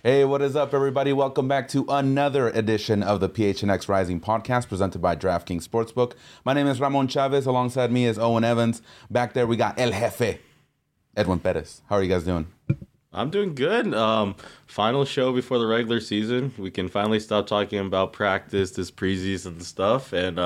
Hey, what is up, everybody? Welcome back to another edition of the PHNX Rising podcast presented by DraftKings Sportsbook. My name is Ramon Chavez. Alongside me is Owen Evans. Back there, we got El Jefe, Edwin Perez. How are you guys doing? I'm doing good. Final show before the regular season. We can finally stop talking about practice, this preseason stuff. And,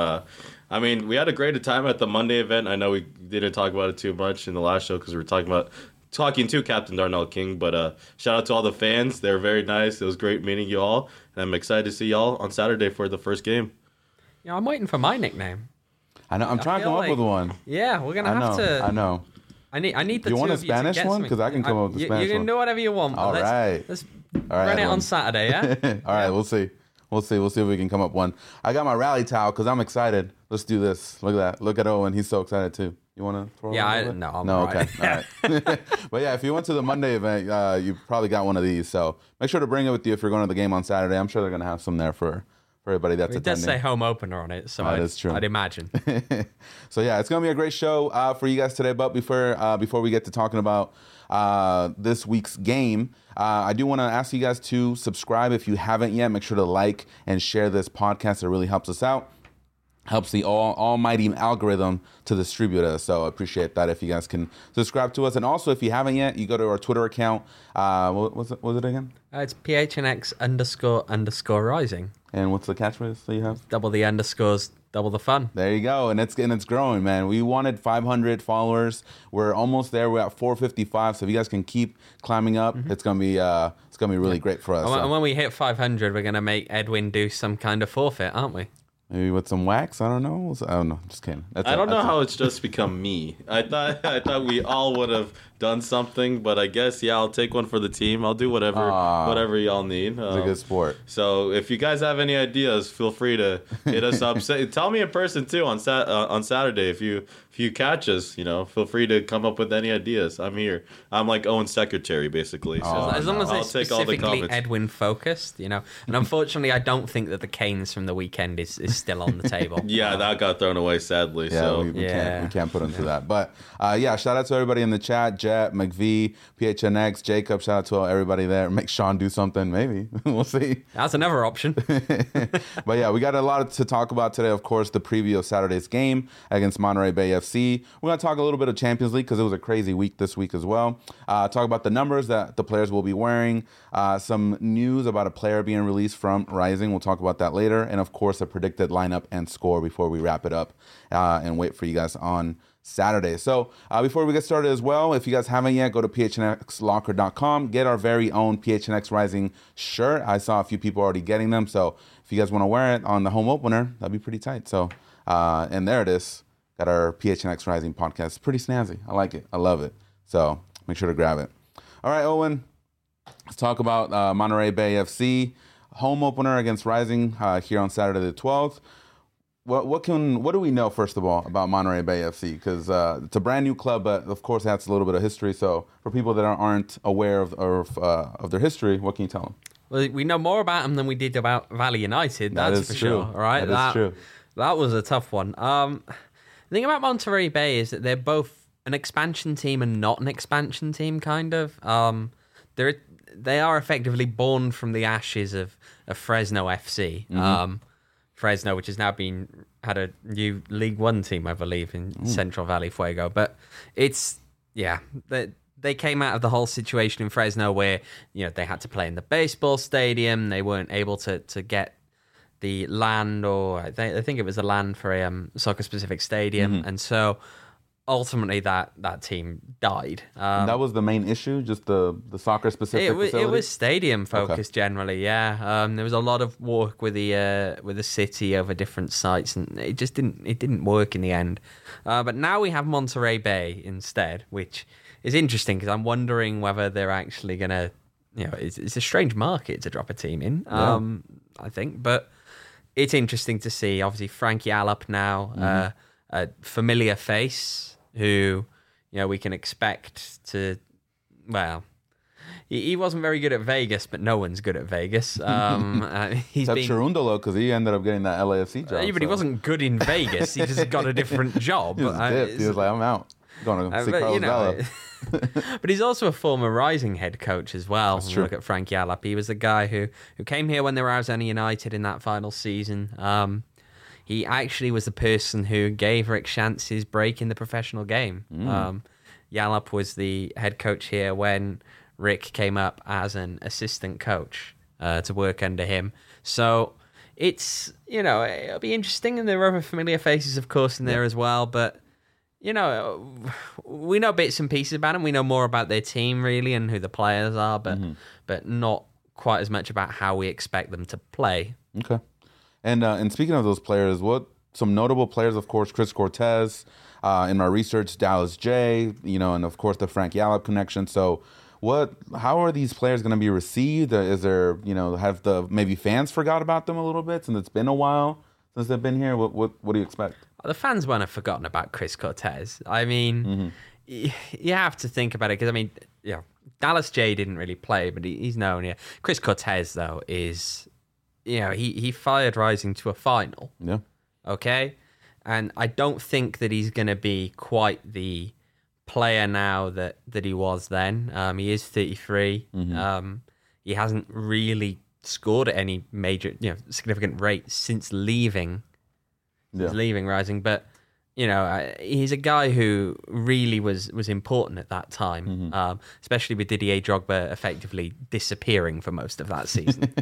we had a great time at the Monday event. I know we didn't talk about it too much in the last show because we were talking to Captain Darnell King, but shout out to all the fans. They were very nice. It was great meeting you all, and I'm excited to see y'all on Saturday for the first game. Yeah, I'm waiting for my nickname. I know. I'm trying to come up with one. Yeah, we're gonna have to. I know. I need the you two want a of you Spanish to get one? Because I can come up with a Spanish one. You can do whatever you want. All right. Let's all right, run it on Saturday, yeah? All right, we'll see. We'll see if we can come up one. I got my rally towel because I'm excited. Let's do this. Look at that. Look at Owen. He's so excited too. You want to throw it? No, I'm no, right. Okay. All right. But yeah, if you went to the Monday event, you probably got one of these. So make sure to bring it with you if you're going to the game on Saturday. I'm sure they're going to have some there for everybody that's attending. It does say home opener on it, so that's true. I'd imagine. So yeah, it's going to be a great show for you guys today. But before we get to talking about this week's game, I do want to ask you guys to subscribe if you haven't yet. Make sure to like and share this podcast. It really helps us out. Helps the almighty algorithm to distribute us. So I appreciate that if you guys can subscribe to us. And also, if you haven't yet, you go to our Twitter account. What was it again? It's PHNX__rising. And what's the catchphrase that you have? Double the underscores, double the fun. There you go. And it's growing, man. We wanted 500 followers. We're almost there. We're at 455. So if you guys can keep climbing up, it's gonna be really great for us. And when we hit 500, we're gonna make Edwin do some kind of forfeit, aren't we? Maybe with some wax. I don't know. Just kidding. I don't know how it's just become me. I thought we all would have done something, but I guess I'll take one for the team. I'll do whatever y'all need. It's a good sport. So if you guys have any ideas, feel free to hit us up. Tell me in person too on Saturday if you catch us. Feel free to come up with any ideas. I'm here. I'm like Owen's secretary basically. So as long as I'll it's take all the specifically comments. Edwin focused, And unfortunately, I don't think that the Canes from the weekend is still on the table. Yeah, that got thrown away sadly. Yeah, so we can't put them through that. But shout out to everybody in the chat. Jet, McVee, PHNX, Jacob. Shout out to everybody there. Make Sean do something. Maybe we'll see. That's another option. But yeah, we got a lot to talk about today. Of course, the preview of Saturday's game against Monterey Bay FC. We're gonna talk a little bit of Champions League because it was a crazy week this week as well. Talk about the numbers that the players will be wearing. Some news about a player being released from Rising. We'll talk about that later. And of course, a predicted lineup and score before we wrap it up and wait for you guys on Saturday. So before we get started as well, if you guys haven't yet, go to phnxlocker.com. Get our very own PHNX Rising shirt. I saw a few people already getting them. So if you guys want to wear it on the home opener, that'd be pretty tight. So, and there it is. Got our PHNX Rising podcast. It's pretty snazzy. I like it. I love it. So make sure to grab it. All right, Owen, let's talk about Monterey Bay FC. Home opener against Rising here on Saturday the 12th. What do we know, first of all, about Monterey Bay FC? Because it's a brand new club, but of course it has a little bit of history. So for people that aren't aware of their history, what can you tell them? Well, we know more about them than we did about Valley United. That's for sure. All right, that is true. That was a tough one. The thing about Monterey Bay is that they're both an expansion team and not an expansion team, kind of. They are effectively born from the ashes of Fresno FC. Mm-hmm. Fresno, which has now had a new League One team, I believe, in Central Valley Fuego. But they came out of the whole situation in Fresno where, they had to play in the baseball stadium. They weren't able to get the land, or I think it was the land for a soccer-specific stadium. Mm-hmm. And so ultimately that team died. That was the main issue, just the soccer-specific facility? It was stadium-focused generally, yeah. There was a lot of work with the city over different sites, and it just didn't work in the end. But now we have Monterey Bay instead, which is interesting because I'm wondering whether they're actually going to, it's a strange market to drop a team in, I think. But it's interesting to see, obviously, Frankie Allop now, a familiar face who, we can expect to, well, he wasn't very good at Vegas, but no one's good at Vegas. Except Cherundolo, because he ended up getting that LAFC job. But he wasn't good in Vegas. He just got a different job. He was like, I'm out. Going to see Carlos Vela. But he's also a former Rising head coach as well. That's true. Look at Frank Yallop. He was the guy who came here when they were Arizona United in that final season. He actually was the person who gave Rick Schantz his break in the professional game. Yallop was the head coach here when Rick came up as an assistant coach to work under him. So it's, it'll be interesting. And there are other familiar faces, of course, in there as well. But, we know bits and pieces about them. We know more about their team, really, and who the players are, but not quite as much about how we expect them to play. Okay. And speaking of those players, some notable players, of course, Chris Cortez, in my research, Dallas J, and of course the Frank Yallop connection. So how are these players going to be received? Is there, have the maybe fans forgot about them a little bit since it's been a while since they've been here? What do you expect? The fans won't have forgotten about Chris Cortez. I mean, you have to think about it because, Dallas J didn't really play, but he's known here. Chris Cortez, though, is, he fired Rising to a final. Yeah. Okay? And I don't think that he's going to be quite the player now that he was then. He is 33. He hasn't really scored at any major, significant rate since leaving Rising, but he's a guy who really was important at that time, especially with Didier Drogba effectively disappearing for most of that season.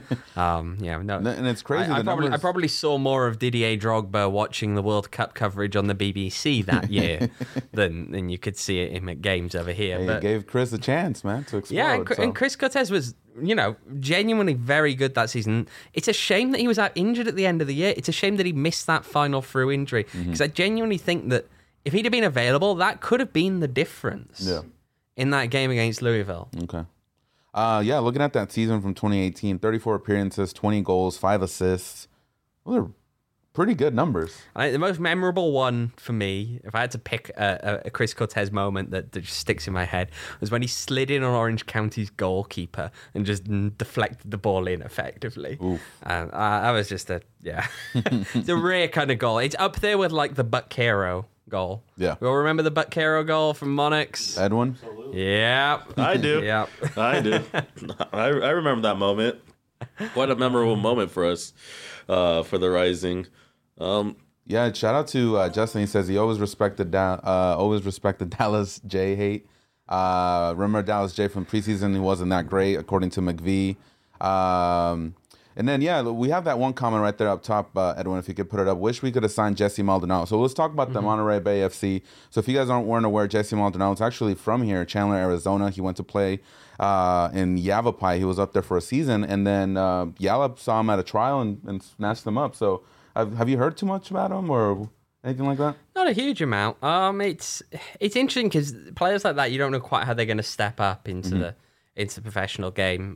And it's crazy. I probably saw more of Didier Drogba watching the World Cup coverage on the BBC that year than you could see him at games over here. But gave Chris a chance, man, to explode. Yeah, and Chris Cortez was, genuinely very good that season. It's a shame that he was out injured at the end of the year. It's a shame that he missed that final through injury because I genuinely think that if he'd have been available, that could have been the difference in that game against Louisville. Okay. Looking at that season from 2018, 34 appearances, 20 goals, 5 assists. Those are pretty good numbers. I think the most memorable one for me, if I had to pick a Chris Cortez moment that just sticks in my head, was when he slid in on Orange County's goalkeeper and just deflected the ball in effectively. That was just it's a rare kind of goal. It's up there with like the Buckero goal. Yeah. We all remember the Buckero goal from Monarchs? Edwin? Yeah. I do. Yeah. I do. I remember that moment. Quite a memorable moment for us, for the Rising. Shout out to Justin. He says he always respected Dallas J hate. Remember Dallas J from preseason? He wasn't that great, according to McVie. And then we have that one comment right there up top, Edwin. If you could put it up, wish we could have signed Jesse Maldonado. So let's talk about the Monterey Bay FC. So if you guys weren't aware, Jesse Maldonado is actually from here, Chandler, Arizona. He went to play in Yavapai. He was up there for a season, and then Yallop saw him at a trial and snatched him up. So have you heard too much about him or anything like that? Not a huge amount. It's interesting because players like that, you don't know quite how they're going to step up into the professional game.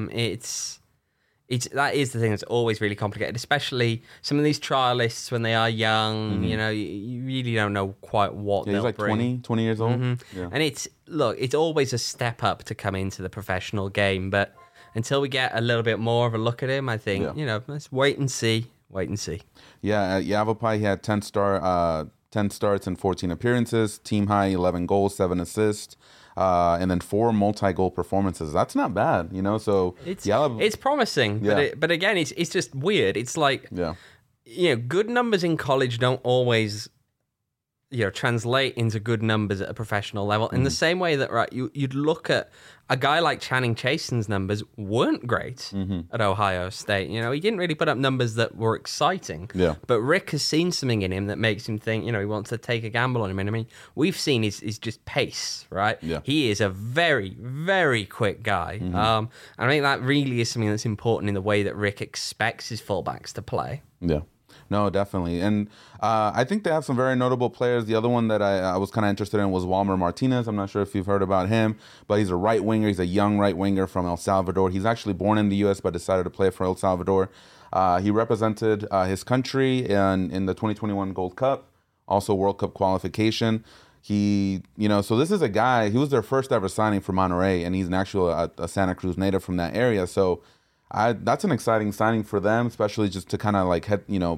That is the thing that's always really complicated, especially some of these trialists when they are young. You really don't know quite what they'll bring. He's like 20 years old. Yeah. And it's always a step up to come into the professional game. But until we get a little bit more of a look at him, I think let's wait and see. Yeah, at Yavapai, he had 10 starts and 14 appearances, team high 11 goals, 7 assists. And then 4 multi-goal performances. That's not bad, So it's promising, but again, it's just weird. It's like good numbers in college don't always translate into good numbers at a professional level. In the same way that you'd look at a guy like Channing Chason's numbers weren't great at Ohio State. He didn't really put up numbers that were exciting. Yeah. But Rick has seen something in him that makes him think, he wants to take a gamble on him. And I mean, we've seen is just pace, right? Yeah. He is a very, very quick guy. And I think that really is something that's important in the way that Rick expects his fullbacks to play. Yeah. No, definitely. And I think they have some very notable players. The other one that I was kind of interested in was Walmer Martinez. I'm not sure if you've heard about him, but he's a right winger. He's a young right winger from El Salvador. He's actually born in the U.S., but decided to play for El Salvador. He represented his country in the 2021 Gold Cup, also World Cup qualification. So this is a guy, he was their first ever signing for Monterey, and he's an actual a Santa Cruz native from that area. So that's an exciting signing for them, especially just to kind of like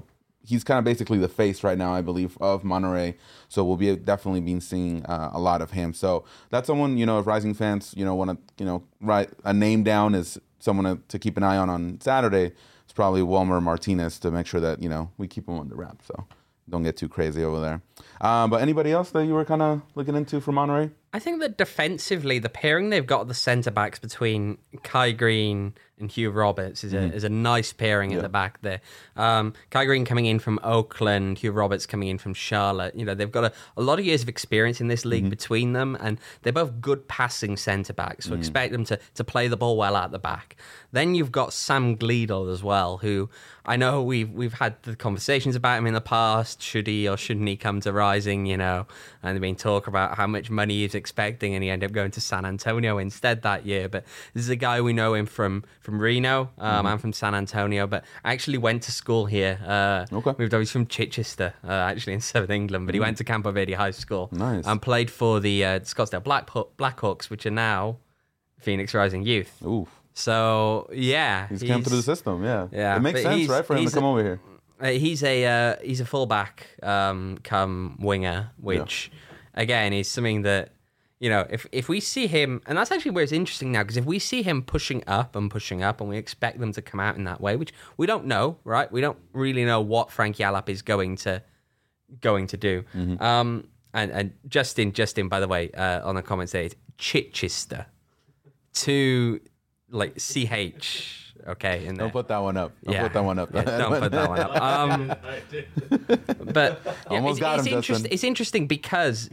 he's kind of basically the face right now, I believe, of Monterrey. So we'll be definitely being seeing a lot of him. So that's someone, if Rising fans, want to, write a name down as someone to keep an eye on Saturday. It's probably Wilmer Martinez to make sure that, we keep him under wraps. So don't get too crazy over there. But anybody else that you were kind of looking into for Monterrey? I think that defensively, the pairing they've got at the centre backs between Kai Green and Hugh Roberts is a nice pairing at the back there. Kai Green coming in from Oakland, Hugh Roberts coming in from Charlotte. They've got a lot of years of experience in this league between them, and they're both good passing centre backs. So expect them to play the ball well out the back. Then you've got Sam Gleadle as well, who I know we've had the conversations about him in the past. Should he or shouldn't he come to Rising? And there's been talk about how much money he's expecting, and he ended up going to San Antonio instead that year. But this is a guy we know him from Reno and from San Antonio, but actually went to school here. Moved over. He's from Chichester, actually in Southern England, but he went to Campo Verde High School. Nice. And played for the Scottsdale Blackhawks, which are now Phoenix Rising Youth. Ooh. So yeah, he's come through the system. Yeah. It makes sense, right, for him to come over here. He's a fullback, come winger, which again is something that if we see him, and that's actually where it's interesting now, because if we see him pushing up, and we expect them to come out in that way, which we don't know, right? We don't really know what Frank Yallop is going to do. And Justin, by the way, on the comments there, it's Chichester to like CH. Okay, in there. Don't put that one up. Don't put that one up. Don't put that one up. But almost got him, Justin. It's interesting because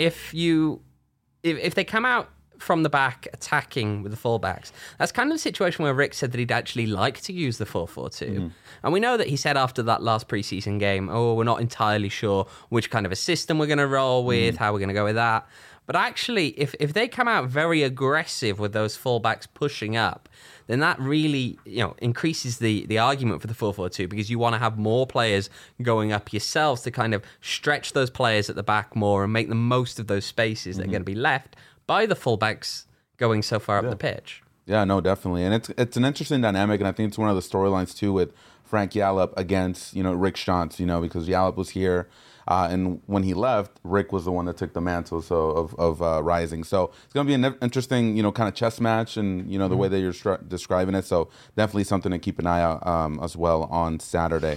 if they come out from the back attacking with the fullbacks, that's kind of the situation where Rick said that he'd actually like to use the 4-4-2. And we know that he said after that last preseason game, we're not entirely sure which kind of a system we're going to roll with, how we're going to go with that. But actually, if they come out very aggressive with those fullbacks pushing up, then that really increases the argument for the 4-4-2, because you want to have more players going up yourselves to kind of stretch those players at the back more and make the most of those spaces that are going to be left by the fullbacks going so far up the pitch. Yeah, no, definitely. And it's an interesting dynamic, and I think it's one of the storylines too with Frank Yallop against Rick Schantz, because Yallop was here. And when he left, Rick was the one that took the mantle of Rising. So it's going to be an interesting, kind of chess match, and the way that you're describing it. So definitely something to keep an eye out as well on Saturday.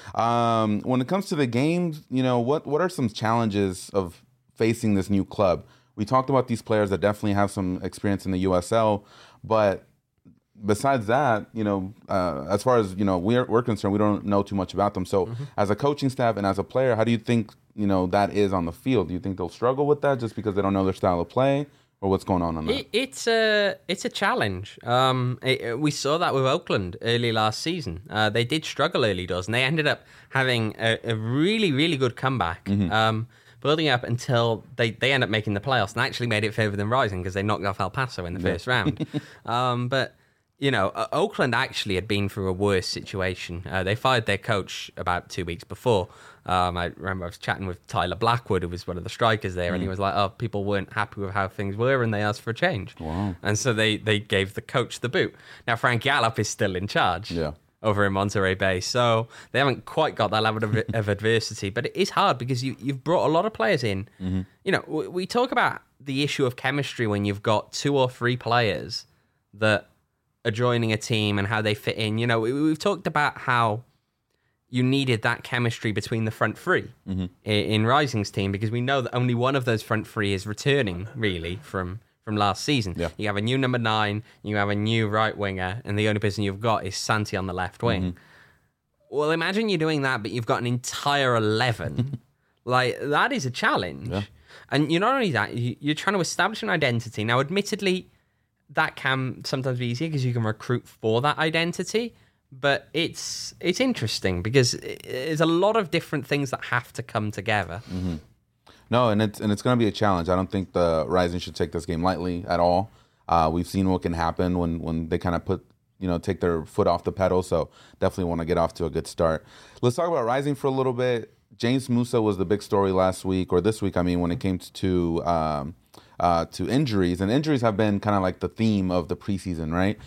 When it comes to the games, what are some challenges of facing this new club? We talked about these players that definitely have some experience in the USL, but besides that, as far as we're concerned, we don't know too much about them. So, as a coaching staff and as a player, how do you think that is on the field? Do you think they'll struggle with that just because they don't know their style of play, or what's going on that? It's a challenge. We saw that with Oakland early last season. They did struggle early doors, and they ended up having a really, really good comeback. Building up until they end up making the playoffs, and actually made it further than Rising because they knocked off El Paso in the first round. But Oakland actually had been through a worse situation. They fired their coach about 2 weeks before. I remember I was chatting with Tyler Blackwood, who was one of the strikers there, and he was like, people weren't happy with how things were, and they asked for a change. Wow. And so they gave the coach the boot. Now, Frank Yallop is still in charge. Yeah. Over in Monterey Bay, so they haven't quite got that level of adversity. But it is hard because you've brought a lot of players in. We talk about the issue of chemistry when you've got 2 or 3 players that are joining a team and how they fit in. We've talked about how you needed that chemistry between the front three in Rising's team, because we know that only one of those front three is returning really from last season. Yeah. You have a new number 9, you have a new right winger, and the only person you've got is Santi on the left wing. Well, imagine you're doing that, but you've got an entire 11. Like, that is a challenge. Yeah. And you're not only that, you're trying to establish an identity. Now, admittedly, that can sometimes be easier because you can recruit for that identity. But it's interesting because there's a lot of different things that have to come together. No, and it's going to be a challenge. I don't think the Rising should take this game lightly at all. We've seen what can happen when they kind of take their foot off the pedal. So definitely want to get off to a good start. Let's talk about Rising for a little bit. James Musa was the big story last week, or this week, I mean, when it came to to injuries, and injuries have been kind of like the theme of the preseason, right?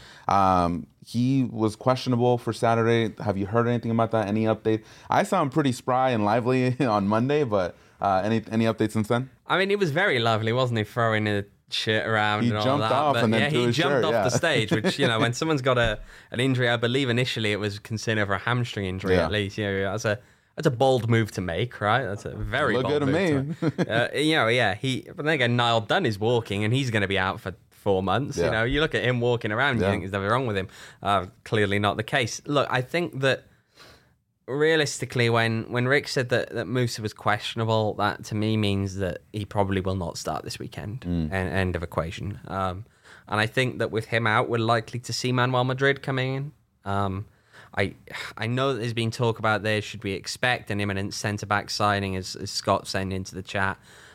He was questionable for Saturday. Have you heard anything about that? Any update? I saw him pretty spry and lively on Monday, but any updates since then? I mean, he was very lively, wasn't he? Throwing a shirt around he and all jumped that. off but and then threw his he jumped shirt, off the stage, which, when someone's got an injury, I believe initially it was considered for a hamstring injury at least. That's a bold move to make, right? That's a very bold move. Look good to me. But then again, Niall Dunn is walking and he's going to be out for 4 months. Yeah. You look at him walking around, you think there's nothing wrong with him. Clearly not the case. Look, I think that realistically, when Rick said that Musa was questionable, that to me means that he probably will not start this weekend. End of equation. And I think that with him out, we're likely to see Manuel Madrid coming in. I know that there's been talk about there. Should we expect an imminent centre-back signing, as Scott sent into the chat?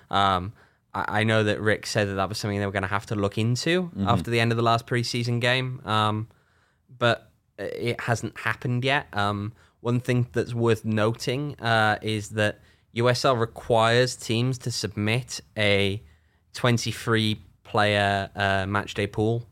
I know that Rick said that was something they were going to have to look into after the end of the last preseason game, but it hasn't happened yet. One thing that's worth noting is that USL requires teams to submit a 23-player matchday pool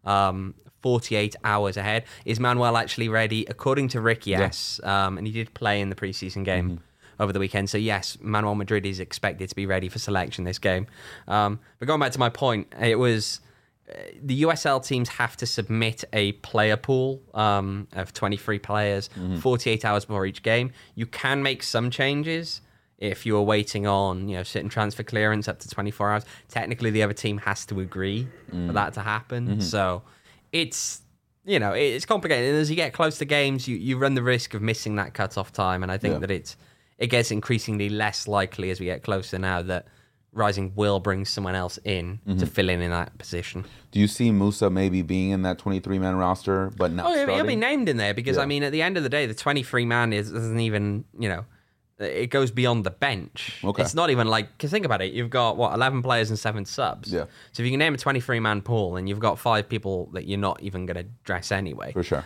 48 hours ahead. Is Manuel actually ready? According to Rick, yes. And he did play in the preseason game over the weekend. So yes, Manuel Madrid is expected to be ready for selection this game. But going back to my point, it was the USL teams have to submit a player pool of 23 players 48 hours before each game. You can make some changes if you're waiting on certain transfer clearance up to 24 hours. Technically, the other team has to agree for that to happen. So it's complicated. And as you get close to games, you run the risk of missing that cutoff time. And I think that it gets increasingly less likely as we get closer now that Rising will bring someone else in to fill in that position. Do you see Musa maybe being in that 23-man roster, but not starting? He'll be named in there because, I mean, at the end of the day, the 23-man isn't even, it goes beyond the bench. Okay. It's not even like, because think about it, you've got, 11 players and 7 subs. Yeah. So if you can name a 23-man pool, and you've got 5 people that you're not even going to dress anyway. For sure.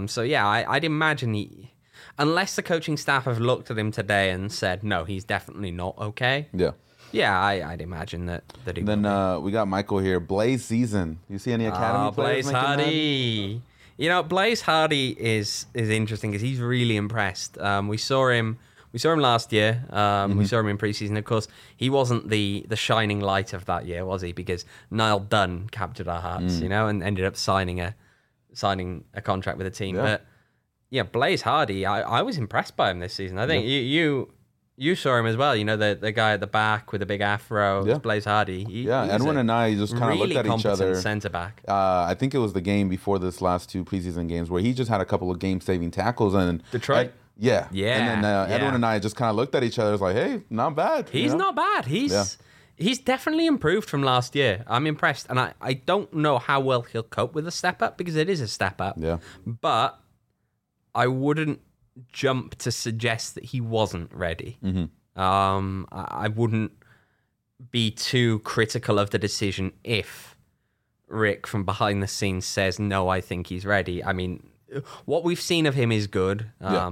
I'd imagine unless the coaching staff have looked at him today and said, no, he's definitely not okay. Yeah. Yeah, I'd imagine that he Then we got Michael here. Blaze season. You see any academy players? Blaze Hardy. Blaze Hardy is interesting because he's really impressed. We saw him last year. We saw him in preseason. Of course, he wasn't the shining light of that year, was he? Because Niall Dunn captured our hearts, and ended up signing a contract with the team. Yeah. But Blaze Hardy, I was impressed by him this season. I think you saw him as well, the guy at the back with the big afro, Blaze Hardy. Edwin and I just kind of looked at each other. Centre back. I think it was the game before this last 2 preseason games where he just had a couple of game-saving tackles and Detroit. And then Edwin and I just kind of looked at each other. It's like, hey, not bad. He's not bad. He's definitely improved from last year. I'm impressed, and I don't know how well he'll cope with a step up because it is a step up. Yeah, but I wouldn't jump to suggest that he wasn't ready. I wouldn't be too critical of the decision if Rick from behind the scenes says, no, I think he's ready. I mean, what we've seen of him is good.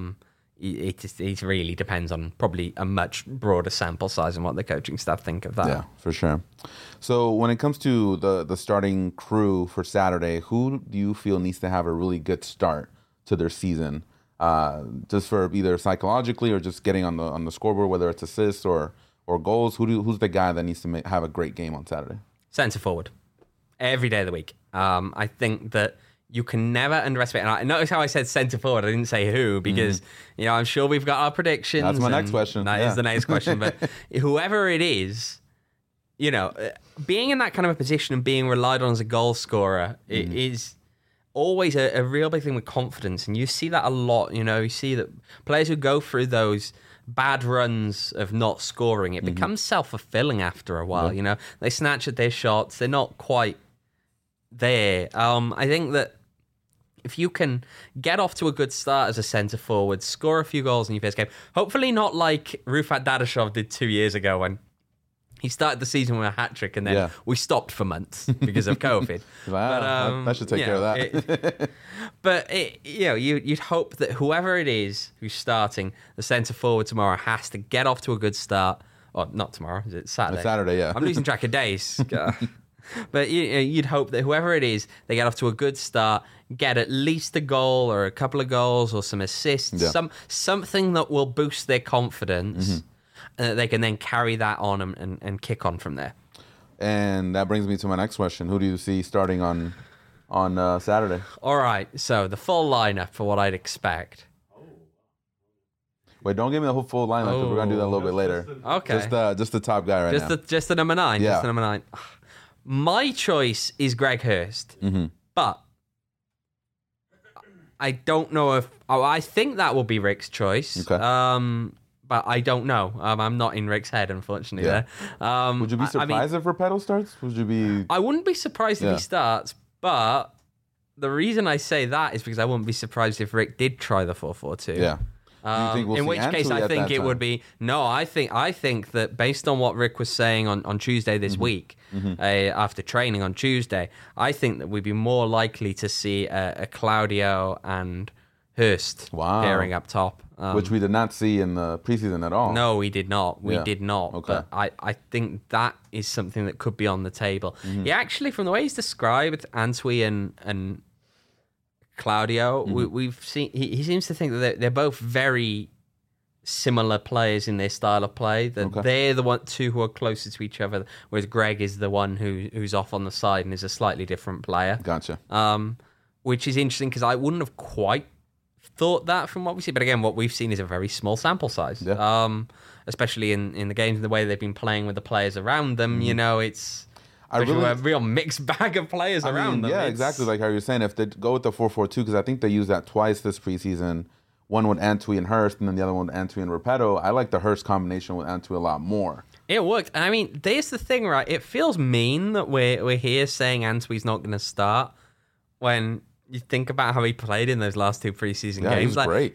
It really depends on probably a much broader sample size and what the coaching staff think of that. Yeah, for sure. So when it comes to the starting crew for Saturday, who do you feel needs to have a really good start to their season? Just for either psychologically or just getting on the scoreboard, whether it's assists or goals. Who's the guy that needs to have a great game on Saturday? Centre forward, every day of the week. I think that you can never underestimate. And notice how I said centre forward. I didn't say who because I'm sure we've got our predictions. That's my next question. That is the next question. But whoever it is, being in that kind of a position and being relied on as a goal scorer is always a real big thing with confidence, and you see that a lot. You see that players who go through those bad runs of not scoring, it becomes self-fulfilling after a while. They snatch at their shots, they're not quite there. I think that if you can get off to a good start as a centre forward, score a few goals in your first game, hopefully not like Rufat Dadashov did 2 years ago when he started the season with a hat-trick and then we stopped for months because of COVID. Wow, that should take care of that. You'd hope that whoever it is who's starting the centre forward tomorrow has to get off to a good start, Or not tomorrow, is it Saturday? It's Saturday, yeah. I'm losing track of days. But you'd hope that whoever it is, they get off to a good start, get at least a goal or a couple of goals or some assists, something that will boost their confidence, and that they can then carry that on and kick on from there. And that brings me to my next question. Who do you see starting on Saturday? All right, so the full lineup for what I'd expect. Wait, don't give me the whole full lineup, because we're going to do that a little bit later. Okay. Just the top guy now. Just the number 9. Yeah. Just the number 9. My choice is Greg Hurst, but I don't know if... Oh, I think that will be Rick's choice. Okay. But I don't know. I'm not in Rick's head, unfortunately. Yeah. There. Would you be surprised if Repetto starts? Would you be... I wouldn't be surprised if he starts, but the reason I say that is because I wouldn't be surprised if Rick did try the 4-4-2. Yeah. In which case, I think it would be no. I think that based on what Rick was saying on Tuesday this week, after training on Tuesday, I think that we'd be more likely to see a Claudio and Hurst pairing up top, which we did not see in the preseason at all. No, we did not. We did not. Okay. But I think that is something that could be on the table. Yeah, actually, from the way he's described, Antwi and Claudio, we've seen. He seems to think that they're both very similar players in their style of play. That they're the two who are closer to each other, whereas Greg is the one who's off on the side and is a slightly different player. Gotcha. Which is interesting because I wouldn't have quite thought that from what we see. But again, what we've seen is a very small sample size. Yeah. Especially in the games and the way they've been playing with the players around them. You know, it's. A real mixed bag of players around them. Yeah, exactly like how you're saying. If they go with the 4-4-2, because I think they used that twice this preseason. One with Antwi and Hurst, and then the other one with Antwi and Repetto. I like the Hurst combination with Antwi a lot more. It worked. And I mean, there's the thing, right? It feels mean that we're here saying Antwi's not going to start when you think about how he played in those last 2 preseason games. He's great.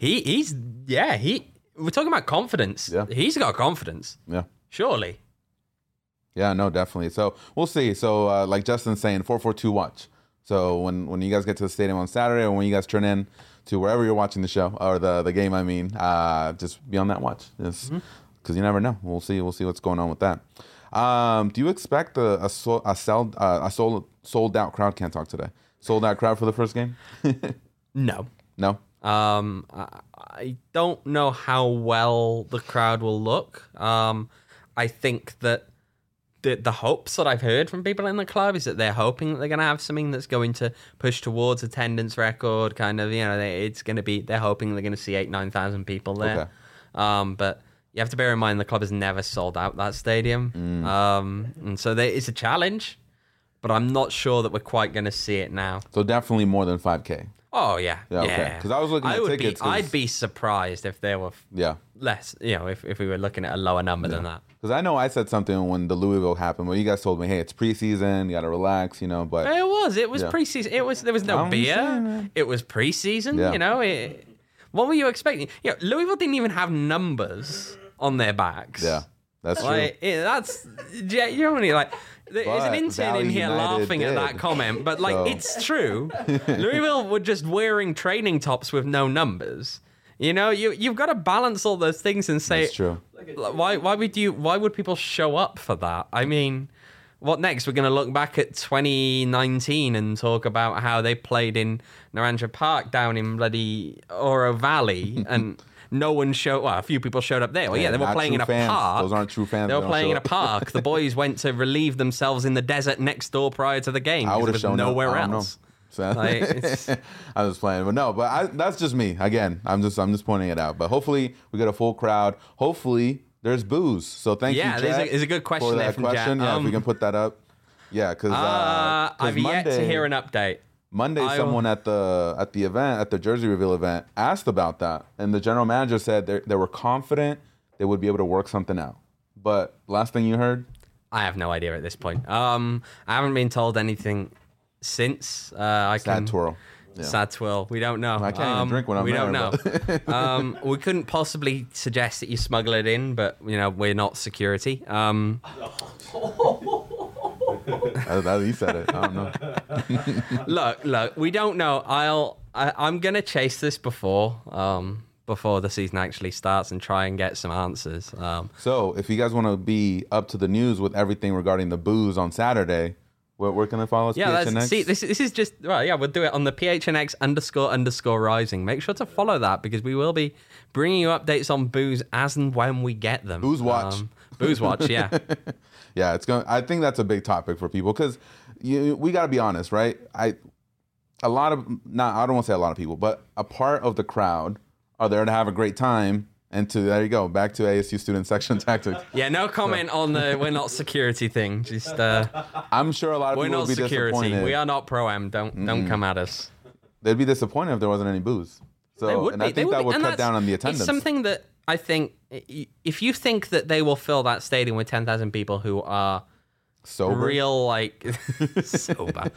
We're talking about confidence. Yeah. He's got confidence. Yeah. Surely. Yeah, no, definitely. So we'll see. So like Justin's saying, 4-4-2 watch. So when you guys get to the stadium on Saturday, or when you guys turn in to wherever you're watching the show or the game, just be on that watch. Because you never know. We'll see what's going on with that. Do you expect a sold out crowd? Can't talk today. Sold out crowd for the first game? No. No. I don't know how well the crowd will look. I think that the hopes that I've heard from people in the club is that they're hoping that they're going to have something that's going to push towards attendance record. Kind of, it's going to be. They're hoping they're going to see 8,000-9,000 people there. Okay. But you have to bear in mind the club has never sold out that stadium, and so it's a challenge. But I'm not sure that we're quite going to see it now. So definitely more than 5K. Oh yeah. Okay. Because I was looking at tickets. I'd be surprised if there were less. If we were looking at a lower number than that. Because I know I said something when the Louisville happened, but you guys told me, hey, it's preseason, you got to relax, But it was preseason. There was no beer. It was preseason. Yeah. What were you expecting? Louisville didn't even have numbers on their backs. Yeah, that's true. That's only like. There's an intern Valley in here United laughing at that comment, but it's true. Louisville were just wearing training tops with no numbers. You've got to balance all those things and say, that's true. Why would people show up for that? I mean, what next? We're going to look back at 2019 and talk about how they played in Naranja Park down in bloody Oro Valley and. No one showed. Well, a few people showed up there. Well, they were playing in a park. Those aren't true fans. They were playing in a park. The boys went to relieve themselves in the desert next door prior to the game. I would have shown nowhere else. So, I was playing, but that's just me. Again, I'm just pointing it out. But hopefully we get a full crowd. Hopefully there's booze. So thank you, Jack. Yeah, there's a good question for there that from question. Jack. Yeah, if we can put that up. Yeah, because I've yet to hear an update. Monday, someone at the jersey reveal event asked about that, and the general manager said they were confident they would be able to work something out. But last thing you heard? I have no idea at this point. I haven't been told anything since. Sad twirl. Yeah. Sad twirl. We don't know. I can't even drink when I'm We there, don't know. We couldn't possibly suggest that you smuggle it in, but we're not security. He said it. I don't know. Look. We don't know. I'm gonna chase this before before the season actually starts and try and get some answers. So if you guys want to be up to the news with everything regarding the booze on Saturday, where can they follow us? Yeah, PHNX? see, this is just right. Yeah, we'll do it on the PHNX__rising. Make sure to follow that because we will be bringing you updates on booze as and when we get them. Booze watch. Booze watch, yeah. Yeah, it's going. I think that's a big topic for people because we got to be honest, right? I don't want to say a lot of people, but a part of the crowd are there to have a great time. And there you go, back to ASU student section tactics. Yeah, no comment on the we're not security thing. Just I'm sure a lot of people would be disappointed. We are not pro-am. Don't come at us. They'd be disappointed if there wasn't any booze. So, I think that would cut down on the attendance. It's something that I think if you think that they will fill that stadium with 10,000 people who are sober, real sober.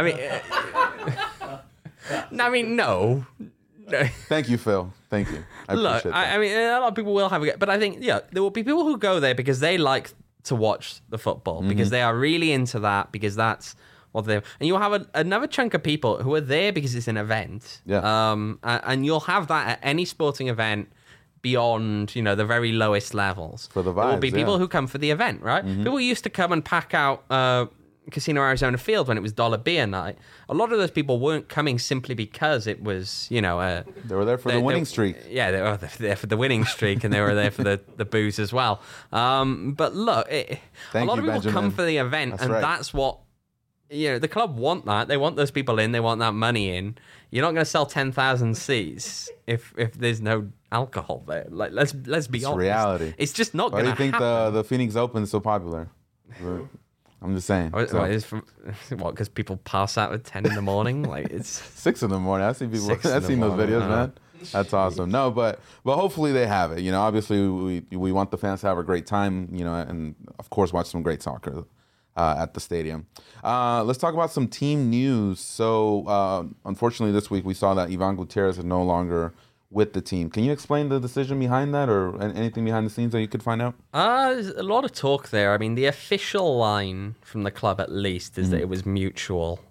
I mean, no. Thank you, Phil. Thank you. I appreciate that. I mean, a lot of people will have it, but I think, there will be people who go there because they like to watch the football, because they are really into that, because that's what they. And you'll have another chunk of people who are there because it's an event. Yeah. And you'll have that at any sporting event beyond, the very lowest levels. For the vibes, there will be people who come for the event, right? People used to come and pack out Casino Arizona Field when it was dollar beer night. A lot of those people weren't coming simply because it was, they were there for the winning streak. Yeah, they were there for the winning streak, and they were there for the booze as well. But look, a lot of people come for the event, that's what the club want. That they want those people in, they want that money in. You're not going to sell 10,000 seats if there's no alcohol there. Like let's be honest. It's reality. It's just not going to happen. Why do you think the Phoenix Open is so popular? I'm just saying. Because people pass out at 10 in the morning? Like it's 6 in the morning. I see people. I've seen those videos, man. That's awesome. No, but hopefully they have it. Obviously we want the fans to have a great time. And of course watch some great soccer at the stadium. Let's talk about some team news. So unfortunately this week we saw that Ivan Gutierrez is no longer with the team. Can you explain the decision behind that, or anything behind the scenes that you could find out? There's a lot of talk there. I mean, the official line from the club, at least, is that it was mutual.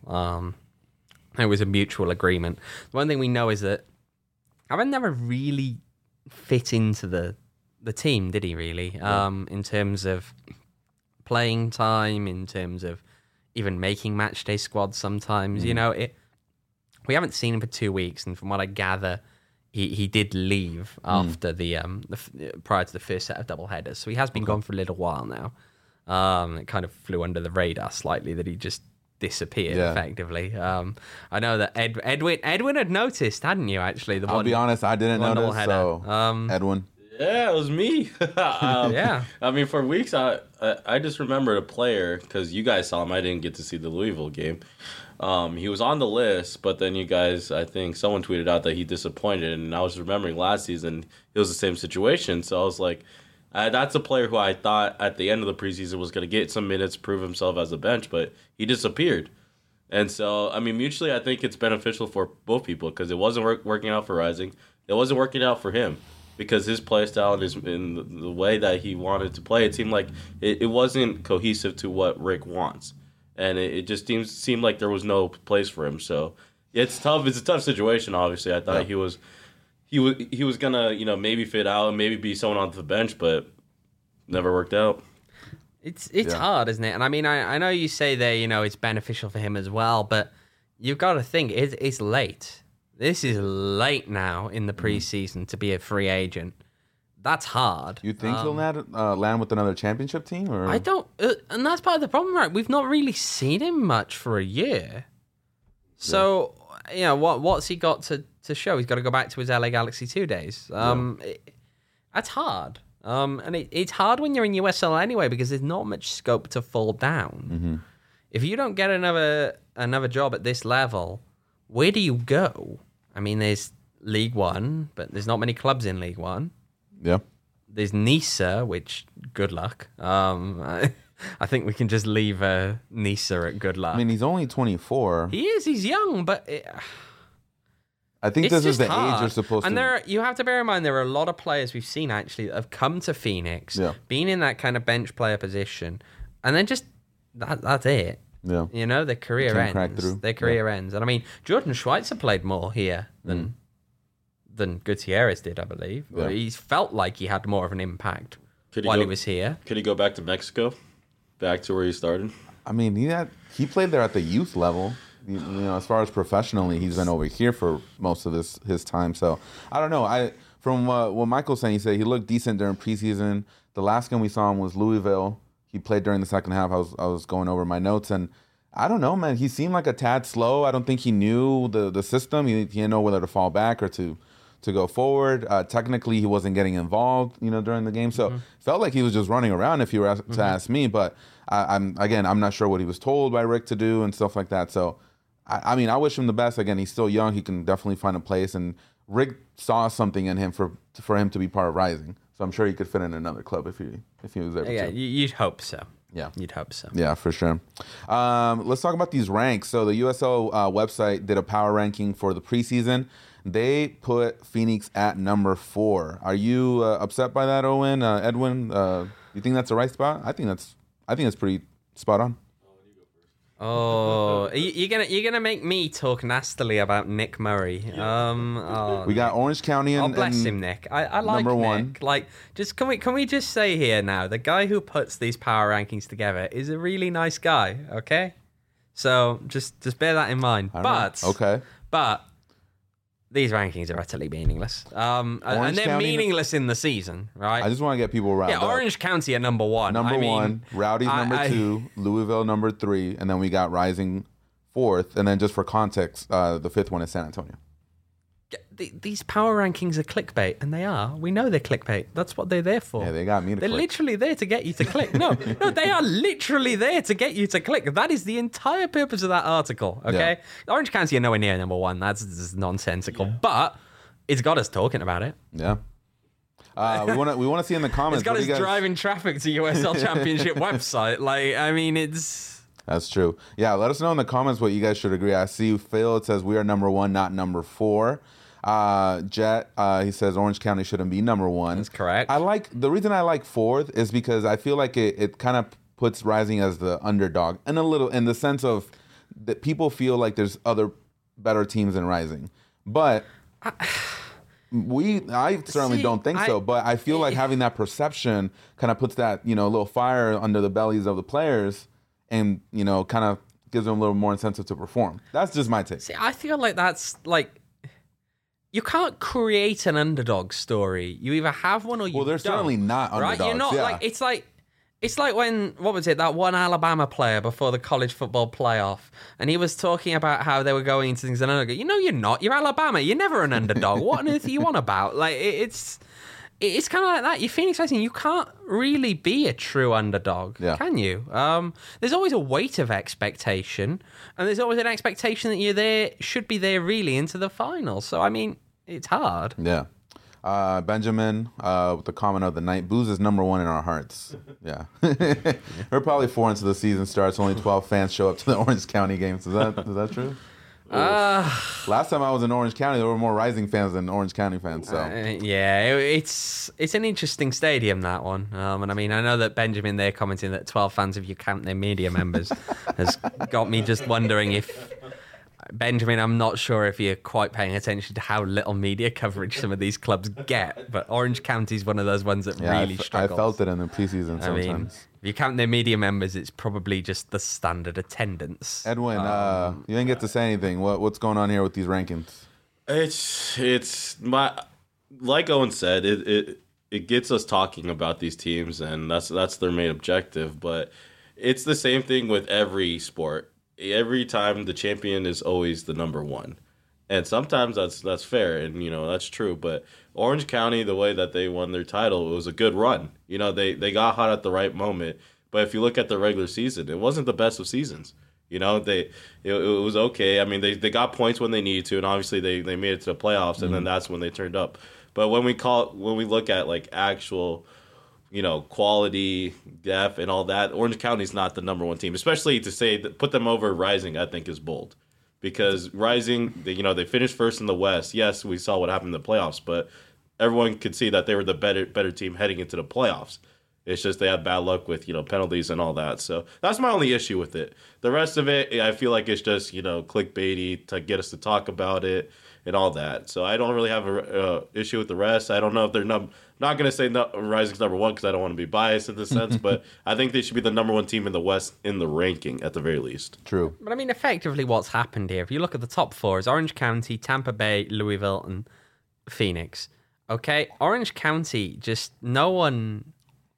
It was a mutual agreement. The one thing we know is that Ivan never really fit into the team, did he? Really, in terms of playing time, in terms of even making match day squads. Sometimes, we haven't seen him for 2 weeks, and from what I gather, he did leave after the prior to the first set of double headers, so he has been gone for a little while now. It kind of flew under the radar slightly that he just disappeared effectively. I know that Edwin had noticed, hadn't you? Actually, I'll be honest, I didn't notice. So Edwin, yeah, it was me. Yeah, I mean, for weeks I just remembered a player because you guys saw him. I didn't get to see the Louisville game. He was on the list, but then you guys, I think someone tweeted out that he disappointed, and I was remembering last season it was the same situation. So I was like, that's a player who I thought at the end of the preseason was going to get some minutes, prove himself as a bench, but he disappeared. And so, I mean, mutually, I think it's beneficial for both people because it wasn't working out for Rising. It wasn't working out for him because his play style and in the way that he wanted to play, it seemed like it wasn't cohesive to what Rick wants. And it just seemed like there was no place for him. So it's tough. It's a tough situation. Obviously, I thought he was gonna maybe fit out and maybe be someone on the bench, but never worked out. It's hard, isn't it? And I mean, I know you say there it's beneficial for him as well, but you've got to think it's late. This is late now in the preseason to be a free agent. That's hard. You think he'll land with another championship team? Or? I don't, and that's part of the problem, right? We've not really seen him much for a year. So, what's he got to show? He's got to go back to his LA Galaxy 2 days. That's hard. And it's hard when you're in USL anyway because there's not much scope to fall down. Mm-hmm. If you don't get another job at this level, where do you go? I mean, there's League One, but there's not many clubs in League One. Yeah. There's Nisa, which good luck. I think we can just leave Nisa at good luck. I mean, he's only 24. He is. He's young, but I think this is the age you're supposed to. And you have to bear in mind there are a lot of players we've seen actually that have come to Phoenix, been in that kind of bench player position, and then just that's it. Yeah. Their career ends. Their career ends, and I mean, Jordan Schweitzer played more here than than Gutierrez did, I believe. Yeah. He's felt like he had more of an impact while he was here. Could he go back to Mexico? Back to where he started? I mean, he played there at the youth level. You know, as far as professionally, he's been over here for most of his time. So I don't know. From what Michael's saying, he said he looked decent during preseason. The last game we saw him was Louisville. He played during the second half. I was going over my notes, and I don't know, man. He seemed like a tad slow. I don't think he knew the system. He didn't know whether to fall back or to go forward. Technically, he wasn't getting involved, during the game. So felt like he was just running around. If you were to ask me, but I'm not sure what he was told by Rick to do and stuff like that. So I mean, I wish him the best. Again, he's still young. He can definitely find a place, and Rick saw something in him for him to be part of Rising. So I'm sure he could fit in another club if he was able to. Yeah, you'd hope so. Yeah. You'd hope so. Yeah, for sure. Let's talk about these ranks. So the USL website did a power ranking for the preseason. They put Phoenix at number 4. Are you upset by that, Owen? Edwin, you think that's the right spot? I think that's pretty spot on. Oh, you're gonna make me talk nastily about Nick Murray. We got Orange County and bless him, Nick. I like number Nick. 1. Like, just can we just say here now, the guy who puts these power rankings together is a really nice guy. Okay, so just bear that in mind. But these rankings are utterly meaningless. And they're County, meaningless in the season, right? I just want to get people riled up. Orange County are number 1. Number 1, Rowdy's number 2, Louisville number 3, and then we got Rising 4th, and then just for context, the 5th one is San Antonio. These power rankings are clickbait, and they are. We know they're clickbait. That's what they're there for. Yeah, they got me to They're click. literally there to get you to click. No, they are literally there to get you to click. That is the entire purpose of that article, okay? Yeah. Orange County are nowhere near number 1. That's just nonsensical. Yeah. But it's got us talking about it. Yeah. We want to see in the comments. It's got us driving traffic to USL Championship website. Like, I mean, it's... That's true. Yeah, let us know in the comments what you guys should agree. I see Phil, it says we are number 1, not number 4. Jet, he says Orange County shouldn't be number 1. That's correct. The reason I like 4th is because I feel like it kind of puts Rising as the underdog, and a little in the sense of that people feel like there's other better teams than Rising, but I certainly don't think so. But I feel like having that perception kind of puts that little fire under the bellies of the players, and kind of gives them a little more incentive to perform. That's just my take. See, I feel like that's like. You can't create an underdog story. You either have one or you don't. Well, they're certainly not underdogs. Right? You're not it's like when, what was it, that one Alabama player before the college football playoff, and he was talking about how they were going into things, and I go, you're not. You're Alabama. You're never an underdog. What on earth are you on about? Like, it's kind of like that. You're Phoenix Rising. You can't really be a true underdog, can you? There's always a weight of expectation, and there's always an expectation that you're should be there really into the final. So, I mean, it's hard. Yeah. Benjamin, with the comment of the night, Booze is number 1 in our hearts. Yeah. We're probably 4 into the season starts. Only 12 fans show up to the Orange County games. Is that true? Last time I was in Orange County, there were more Rising fans than Orange County fans. So it's an interesting stadium, that one. And I mean, I know that Benjamin there commenting that 12 fans, if you count their media members, has got me just wondering if Benjamin, I'm not sure if you're quite paying attention to how little media coverage some of these clubs get, but Orange County is one of those ones that really struggles. I felt it in the preseason sometimes. I mean, if you count their media members, it's probably just the standard attendance. Edwin, you didn't get to say anything. What's going on here with these rankings? It's like Owen said, it gets us talking about these teams, and that's their main objective. But it's the same thing with every sport. Every time the champion is always the number 1. And sometimes that's fair, and that's true. But Orange County, the way that they won their title, it was a good run. They got hot at the right moment. But if you look at the regular season, it wasn't the best of seasons. It was okay. I mean, they got points when they needed to, and obviously they made it to the playoffs, and then that's when they turned up. But when we look at like actual, quality, depth, and all that, Orange County's not the number 1 team. Especially to say that put them over Rising, I think is bold. Because Rising, they finished first in the West. Yes, we saw what happened in the playoffs, but everyone could see that they were the better team heading into the playoffs. It's just they had bad luck with, penalties and all that. So that's my only issue with it. The rest of it, I feel like it's just, clickbaity to get us to talk about it. and all that. So I don't really have a issue with the rest. I don't know if they're not going to say Rising's number one because I don't want to be biased in this sense, but I think they should be the number one team in the West in the ranking at the very least. True. But I mean, effectively, what's happened here? If you look at the top four, is Orange County, Tampa Bay, Louisville, and Phoenix. Okay, Orange County, just no one.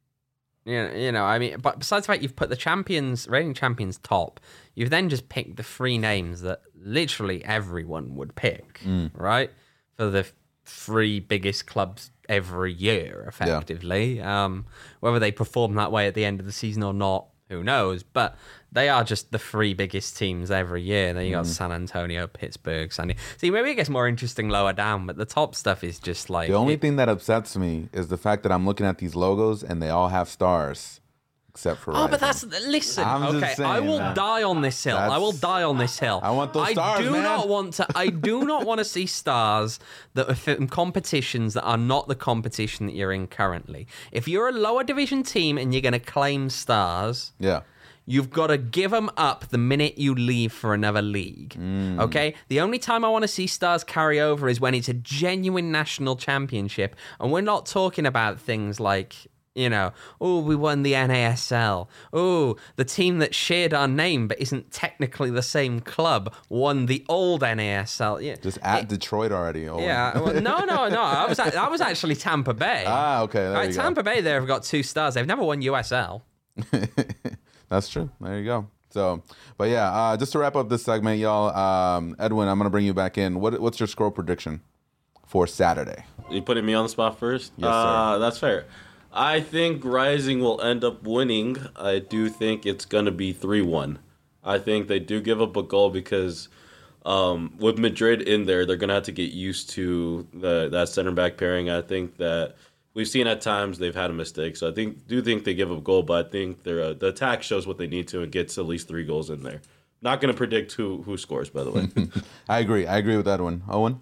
I mean, but besides the fact you've put the reigning champions top, you've then just picked the three names that literally everyone would pick, right? For the three biggest clubs every year, effectively. Yeah. Whether they perform that way at the end of the season or not, who knows? But they are just the three biggest teams every year. Then you got San Antonio, Pittsburgh, San Diego. See, maybe it gets more interesting lower down, but the top stuff is just like... The only thing that upsets me is the fact that I'm looking at these logos and they all have stars. Except for Rising. But that's... Listen, okay, saying, I will man. die on this hill. I will die on this hill. I want those stars, I do man. not want to see stars that are in competitions that are not the competition that you're in currently. If you're a lower division team and you're going to claim stars... Yeah. You've got to give them up the minute you leave for another league, okay? The only time I want to see stars carry over is when it's a genuine national championship. And we're not talking about things like, we won the NASL. Oh, the team that shared our name but isn't technically the same club won the old NASL. Yeah. Just at Detroit already. Oh. Yeah. Well, no. That was actually Tampa Bay. Okay. There you Tampa Bay there have got 2 stars. They've never won USL. That's true. There you go. So, but yeah, just to wrap up this segment, y'all, Edwin, I'm going to bring you back in. What's your score prediction for Saturday? You putting me on the spot first? Yes, sir. That's fair. I think Rising will end up winning. I do think it's going to be 3-1. I think they do give up a goal because with Madrid in there, they're going to have to get used to that center back pairing. I think that we've seen at times they've had a mistake, so I do think they give up a goal, but I think the attack shows what they need to and gets at least 3 goals in there. Not going to predict who scores, by the way. I agree with that one. Owen?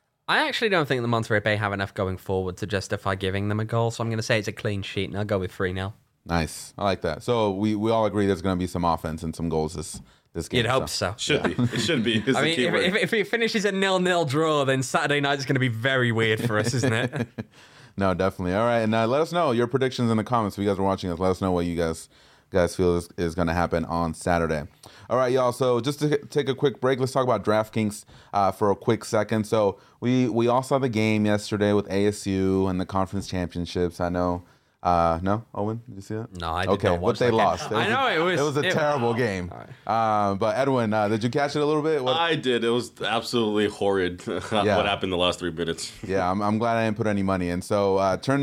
I actually don't think the Monterrey Bay have enough going forward to justify giving them a goal, so I'm going to say it's a clean sheet, and I'll go with 3-0. Nice. I like that. So we all agree there's going to be some offense and some goals this game. You'd hope so. Should be. It should be. I mean, if it finishes a 0-0 draw, then Saturday night is going to be very weird for us, isn't it? No, definitely. All right, and let us know your predictions in the comments. If you guys are watching us, let us know what you guys feel is going to happen on Saturday. All right, y'all. So just to take a quick break, let's talk about DraftKings for a quick second. So we all saw the game yesterday with ASU and the conference championships. I know. No, Owen, did you see that? No, I did not watch but they that lost. I know it was a terrible game. Right. But Edwin, did you catch it a little bit? I did. It was absolutely horrid what happened the last 3 minutes. Yeah, I'm glad I didn't put any money in. So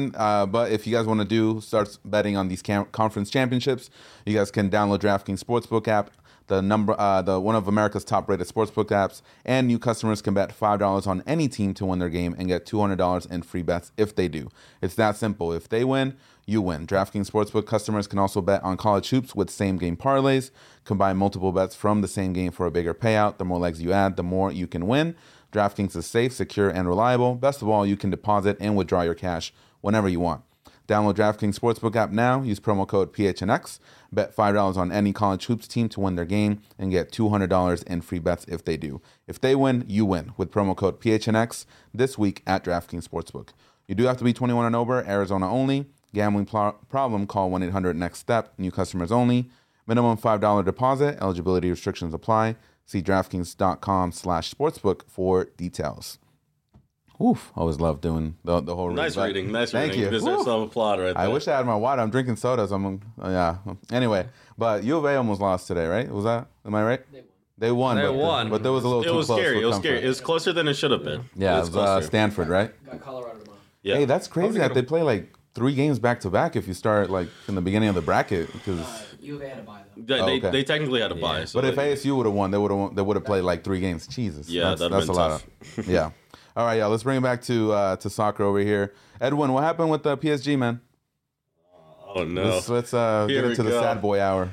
but if you guys want to start betting on these conference championships, you guys can download DraftKings Sportsbook app. The one of America's top-rated sportsbook apps, and new customers can bet $5 on any team to win their game and get $200 in free bets if they do. It's that simple. If they win, you win. DraftKings Sportsbook customers can also bet on college hoops with same-game parlays. Combine multiple bets from the same game for a bigger payout. The more legs you add, the more you can win. DraftKings is safe, secure, and reliable. Best of all, you can deposit and withdraw your cash whenever you want. Download DraftKings Sportsbook app now. Use promo code PHNX. Bet $5 on any college hoops team to win their game and get $200 in free bets if they do. If they win, you win with promo code PHNX this week at DraftKings Sportsbook. You do have to be 21 and over, Arizona only. Gambling problem, call 1-800-NEXT-STEP. New customers only. Minimum $5 deposit. Eligibility restrictions apply. See DraftKings.com/sportsbook for details. Oof, always love doing the whole read. Nice reading. Thank you. Deserves some applaud right there. I wish I had my water. I'm drinking sodas. Anyway, but U of A almost lost today, right? Was that? Am I right? They won. But there was a little too close. It was scary. It was closer than it should have been. Yeah, it was Stanford, right? Got Colorado tomorrow. Yeah. Hey, that's crazy that they play like 3 games back to back if you start like in the beginning of the bracket because U of A had to buy them. They technically had to buy. So but if ASU would have won, they would have played like 3 games. Jesus. Yeah, that's a lot. Yeah. All right, y'all. Let's bring it back to soccer over here. Edwin, what happened with PSG, man? Oh no. Let's get into the sad boy hour.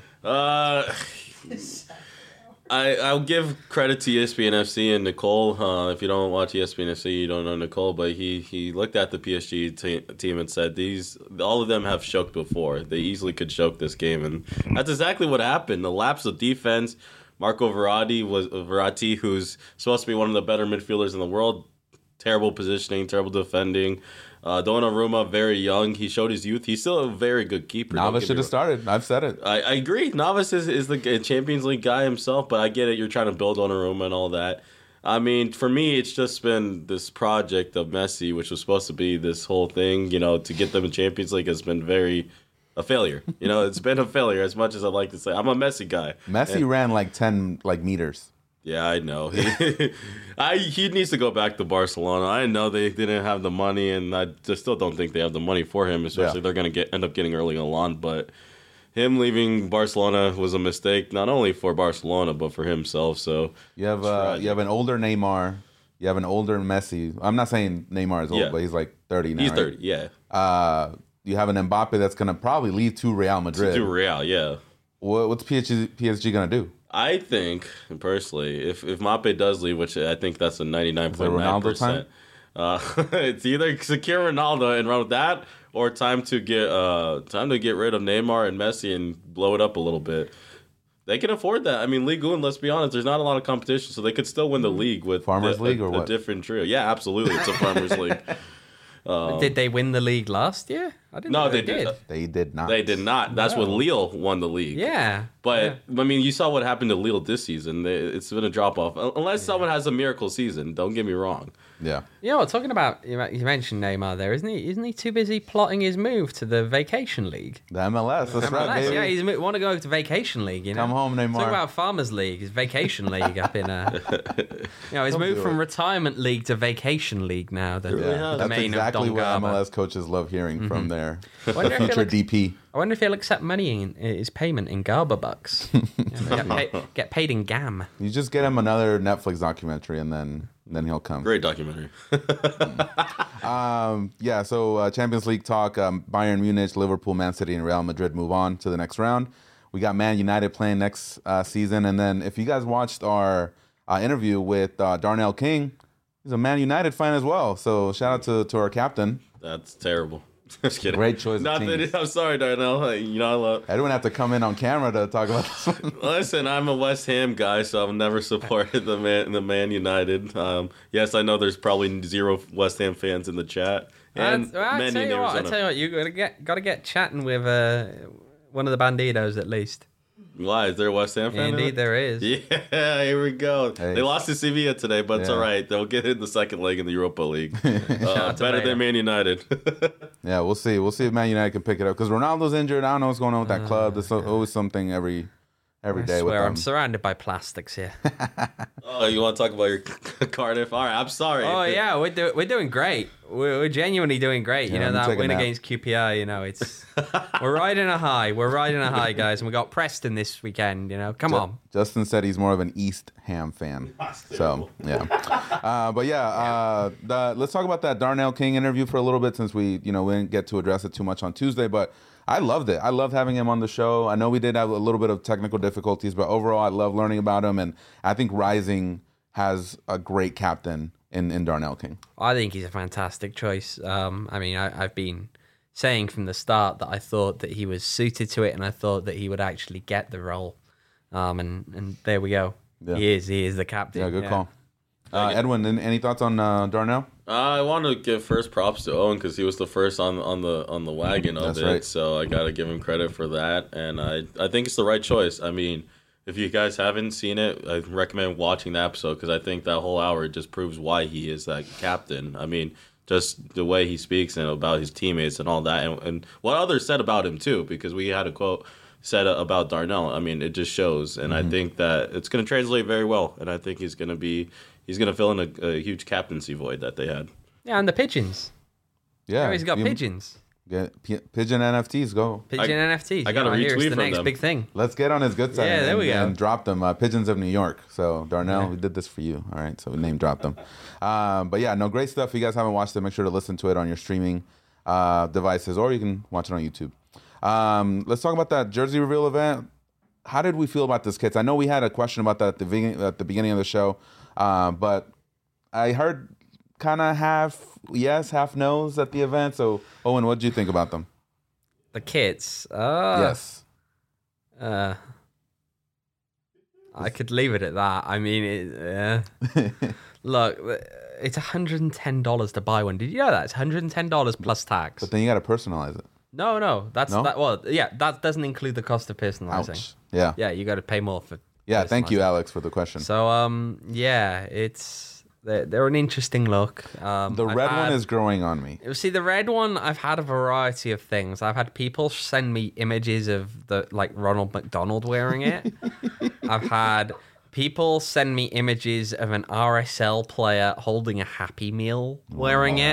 I'll give credit to ESPN FC and Nicole. If you don't watch ESPN FC, you don't know Nicole, but he looked at the PSG team and said all of them have choked before. They easily could choke this game, and that's exactly what happened. The lapse of defense, Marco Verratti, who's supposed to be one of the better midfielders in the world. Terrible positioning, terrible defending. Donnarumma, very young. He showed his youth. He's still a very good keeper. Navas should have started. I've said it. I agree. Navas is the Champions League guy himself, but I get it. You're trying to build Donnarumma and all that. I mean, for me, it's just been this project of Messi, which was supposed to be this whole thing, to get them in Champions League has been a failure. It's been a failure as much as I like to say. I'm a Messi guy. Messi ran like 10 meters. Yeah, I know. He needs to go back to Barcelona. I know they didn't have the money, and I just still don't think they have the money for him, especially they're going to end up getting Erling Haaland. But him leaving Barcelona was a mistake, not only for Barcelona, but for himself. So you have an older Neymar. You have an older Messi. I'm not saying Neymar is old, but he's like 30 now. He's 30, right? yeah. You have an Mbappe that's going to probably leave to Real Madrid. To Real, yeah. What's PSG going to do? I think, personally, if Mbappe does leave, which I think that's a 99.9%, it's either secure Ronaldo and run with that, or time to get rid of Neymar and Messi and blow it up a little bit. They can afford that. I mean, Ligue 1, let's be honest, there's not a lot of competition, so they could still win the league with Farmers League or what? A different trio. Yeah, absolutely, it's a Farmers League. Did they win the league last year? I didn't know they did. They did not. They did not. That's when Lille won the league. Yeah. But, I mean, you saw what happened to Lille this season. It's been a drop-off. Unless someone has a miracle season. Don't get me wrong. Yeah. Talking about, you mentioned Neymar there, isn't he? Isn't he too busy plotting his move to the Vacation League? The MLS. That's right, baby. Yeah, he want to go to Vacation League, Come home, Neymar. Talk about Farmers League, his Vacation League up in... he's moved from Retirement League to Vacation League now. That's exactly what MLS coaches love hearing from their future DP. I wonder if he'll accept money in his payment in Garber bucks. Get paid in GAM. You just get him another Netflix documentary, and then he'll come. Great documentary. So Champions League talk. Bayern Munich, Liverpool, Man City, and Real Madrid move on to the next round. We got Man United playing next season, and then if you guys watched our interview with Darnell King, he's a Man United fan as well. So shout out to our captain. That's terrible. Just kidding. Great choice. I'm sorry, Darnell. I didn't have to come in on camera to talk about this one. Listen, I'm a West Ham guy, so I've never supported the Man United. Yes, I know there's probably 0 West Ham fans in the chat. And I tell you what, you got to get chatting with one of the Bandidos at least. Why? Is there a West Ham fan? Indeed, there is. Yeah, here we go. Hey. They lost to Sevilla today, but it's all right. They'll get in the second leg in the Europa League. Better than Man United. Yeah, we'll see. We'll see if Man United can pick it up. Because Ronaldo's injured. I don't know what's going on with that club. There's always something every day with them. I'm surrounded by plastics here. Oh, you want to talk about your Cardiff? All right, I'm sorry. Oh, yeah, we're doing great. We're genuinely doing great. That win against QPR, it's we're riding a high. We're riding a high, guys. And we got Preston this weekend, Come on. Justin said he's more of an East Ham fan. So, yeah. Let's talk about that Darnell King interview for a little bit since we didn't get to address it too much on Tuesday, but I loved it. I loved having him on the show. I know we did have a little bit of technical difficulties, but overall I love learning about him, and I think Rising has a great captain in Darnell King. I think he's a fantastic choice. I've been saying from the start that I thought that he was suited to it, and I thought that he would actually get the role. And there we go. Yeah. He is the captain. Yeah, good call. Edwin, any thoughts on Darnell? I want to give first props to Owen because he was the first on the wagon of it. Right. So I got to give him credit for that, and I think it's the right choice. I mean, if you guys haven't seen it, I recommend watching the episode because I think that whole hour just proves why he is that captain. I mean, just the way he speaks and about his teammates and all that, and what others said about him too, because we had a quote said about Darnell. I mean, it just shows, and I think that it's going to translate very well, and I think he's going to fill in a huge captaincy void that they had. Yeah, and the pigeons. Yeah, he's got pigeons. Yeah, pigeon NFTs, go. Pigeon NFTs. I got a retweet from the next them. big thing. Let's get on his good side. Yeah, there we go. And drop them. Pigeons of New York. So Darnell, we did this for you. All right, so we name dropped them. Great stuff. If you guys haven't watched it, make sure to listen to it on your streaming devices, or you can watch it on YouTube. Let's talk about that jersey reveal event. How did we feel about this, kids? I know we had a question about that at the beginning of the show, but I heard kind of half yes, half no's at the event. So, Owen, what did you think about them? The kits. Yes. I I could leave it at that. I mean, look, it's $110 to buy one. Did you know that? It's $110 plus tax. But then you got to personalize it. No. That's No? that. Well, yeah, that doesn't include the cost of personalizing. Ouch. Yeah. Yeah, you got to pay more for. Yeah. Thank you, personalizing. Alex, for the question. So, yeah, they're an interesting look. The red one is growing on me. See, the red one, I've had a variety of things. I've had people send me images of Ronald McDonald wearing it. I've had people send me images of an RSL player holding a Happy Meal wearing it.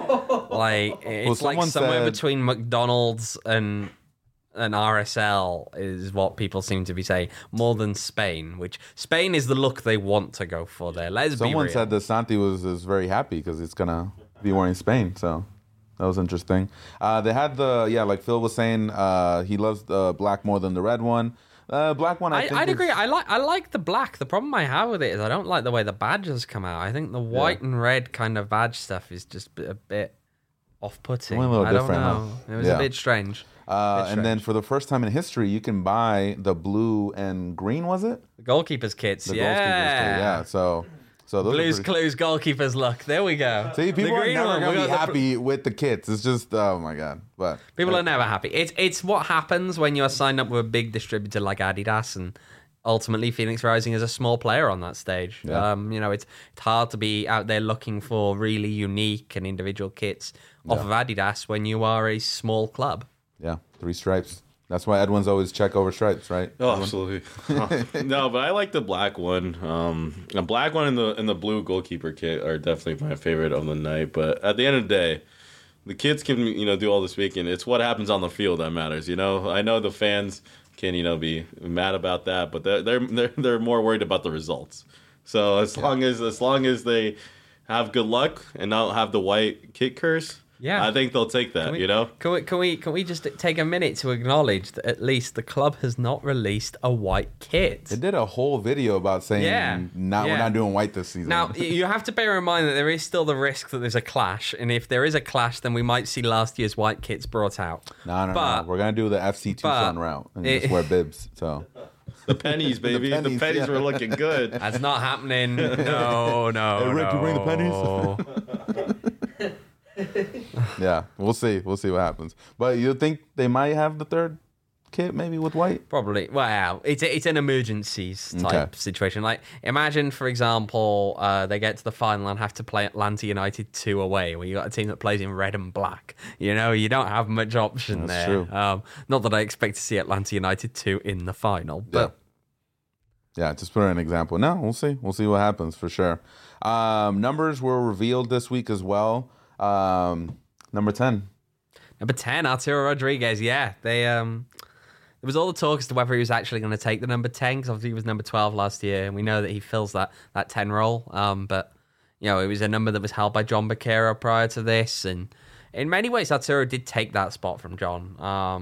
Like, it's like somewhere between McDonald's and an RSL is what people seem to be saying, more than Spain, which Spain is the look they want to go for there. Let's be real. Someone said that Santi is very happy because he's going to be wearing Spain, so that was interesting. They had like Phil was saying, he loves the black more than the red one. Black one, I'd agree. I like the black. The problem I have with it is I don't like the way the badges come out. I think the white and red kind of badge stuff is just a bit off-putting. A little I don't different, know. huh? It was a bit strange. And then for the first time in history, you can buy the blue and green, was it? The goalkeepers kits, The goalkeepers kit, yeah. So those Blues Clues goalkeepers look. There we go. See, people The are green never one, going we to be got the happy with the kits. It's just, oh my God. But people are never happy. It's what happens when you're signed up with a big distributor like Adidas, and ultimately Phoenix Rising is a small player on that stage. Yeah. It's hard to be out there looking for really unique and individual kits off of Adidas when you are a small club. Yeah, 3 stripes. That's why Edwin's always check over stripes, right? Oh, absolutely. No, but I like the black one. The black one and the blue goalkeeper kit are definitely my favorite of the night. But at the end of the day, the kids can do all this weekend. It's what happens on the field that matters. I know the fans can be mad about that, but they're more worried about the results. So as long as they have good luck and not have the white kit curse. Yeah, I think they'll take that. Can we just take a minute to acknowledge that at least the club has not released a white kit? They did a whole video about saying we're not doing white this season. Now you have to bear in mind that there is still the risk that there's a clash, and if there is a clash, then we might see last year's white kits brought out. No. We're gonna do the FC Tucson route and just wear bibs. So. The pennies, baby. The pennies were looking good. That's not happening. No. Hey, Rick, you bring the pennies? Yeah, we'll see. We'll see what happens. But you think they might have the third kit maybe with white? Probably. Well, it's an emergencies type situation. Like, imagine, for example, they get to the final and have to play Atlanta United 2 away, where you got a team that plays in red and black. You don't have much option That's there. true. Not that I expect to see Atlanta United 2 in the final, but Yeah, just put an example. No, we'll see. We'll see what happens for sure. Numbers were revealed this week as well. Number 10. Number 10, Arturo Rodriguez. Yeah, there was all the talk as to whether he was actually going to take the number 10, because obviously he was number 12 last year, and we know that he fills that 10 role. But it was a number that was held by John Baquero prior to this, and in many ways Arturo did take that spot from John.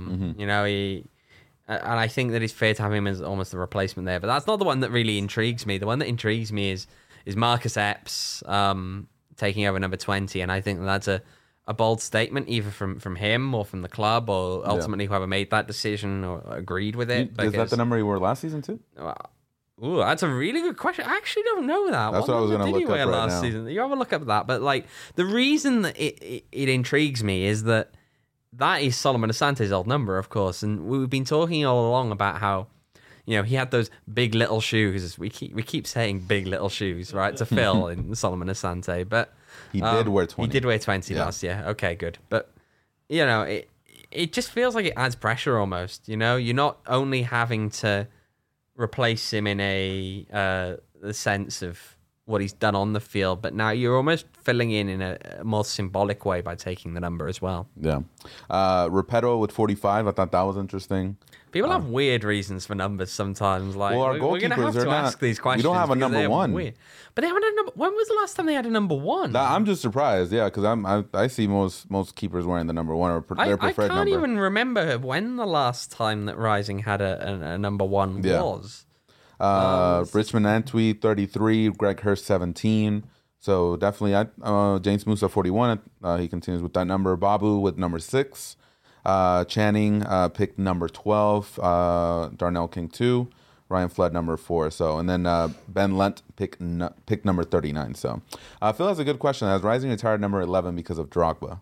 And I think that it's fair to have him as almost the replacement there. But that's not the one that really intrigues me. The one that intrigues me is Marcus Epps taking over number 20, and I think that's a bold statement, either from him or from the club, or ultimately whoever made that decision or agreed with it. Is that the number he wore last season too? Ooh, that's a really good question. I actually don't know that. That's what I was going to look up right last now. Season? You have a look up that. But the reason that it intrigues me is that is Solomon Asante's old number, of course, and we've been talking all along about how he had those big little shoes. We keep saying big little shoes, right, to fill in Solomon Asante, but he did wear 20. He did wear 20 last year. Okay, good. But it just feels like it adds pressure almost. You're not only having to replace him in the sense of what he's done on the field, but now you're almost filling in a more symbolic way by taking the number as well. Yeah. Repetto with 45. I thought that was interesting. People have weird reasons for numbers sometimes. Like, our we're going to have to ask these questions. We don't have a number one. Weird. But they haven't had a number. When was the last time they had a number one? I'm just surprised, because I see most keepers wearing the number one or their preferred number. I can't even remember when the last time that Rising had a number one was. Richmond Antwi 33, Greg Hurst 17. So definitely, James Musa 41. He continues with that number. Babu with number 6. Channing picked number 12. Darnell King 2. Ryan Flood number 4. So, and then Ben Lent pick number 39. So, Phil has a good question. Has Rising retired number 11 because of Drogba?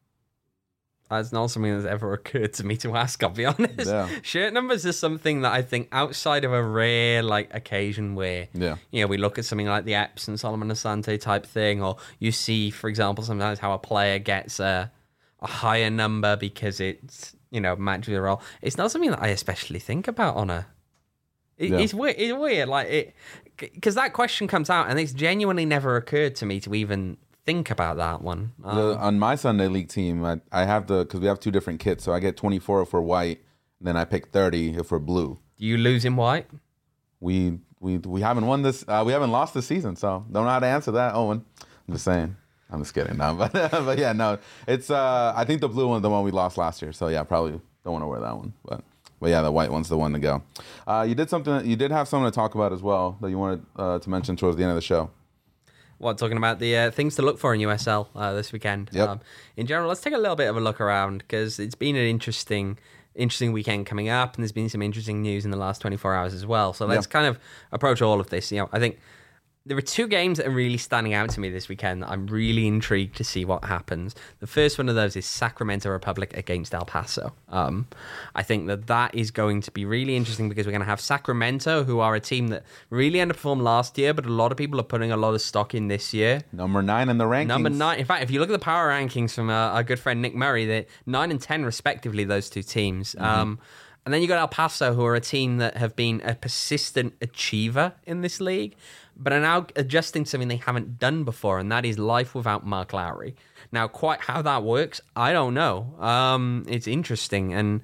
That's not something that's ever occurred to me to ask, I'll be honest. Yeah. Shirt numbers is something that I think outside of a rare occasion where we look at something like the Epps and Solomon Asante type thing, or you see, for example, sometimes how a player gets a higher number because it's matches the role. It's not something that I especially think about on a. It's weird. It's weird, because that question comes out and it's genuinely never occurred to me to even think about that one. On my Sunday League team, I have because we have 2 different kits, so I get 24 if we're white, and then I pick 30 if we're blue. Do you lose in white? We haven't won this. We haven't lost this season, so don't know how to answer that, Owen. I'm just saying. I'm just kidding. No, but yeah, no. It's I think the blue one's the one we lost last year, so yeah, probably don't want to wear that one, but yeah, the white one's the one to go. You did have something to talk about as well that you wanted to mention towards the end of the show. What, talking about the things to look for in USL this weekend? Yep. In general, let's take a little bit of a look around because it's been an interesting weekend coming up, and there's been some interesting news in the last 24 hours as well. So let's kind of approach all of this. I think there are 2 games that are really standing out to me this weekend that I'm really intrigued to see what happens. The first one of those is Sacramento Republic against El Paso. I think that is going to be really interesting because we're going to have Sacramento, who are a team that really underperformed last year, but a lot of people are putting a lot of stock in this year. Number 9 in the rankings. Number 9. In fact, if you look at the power rankings from our good friend Nick Murray, they're 9 and 10 respectively, those 2 teams. Mm-hmm. And then you got El Paso, who are a team that have been a persistent achiever in this league, but are now adjusting to something they haven't done before, and that is life without Mark Lowry. Now, quite how that works, I don't know. It's interesting, and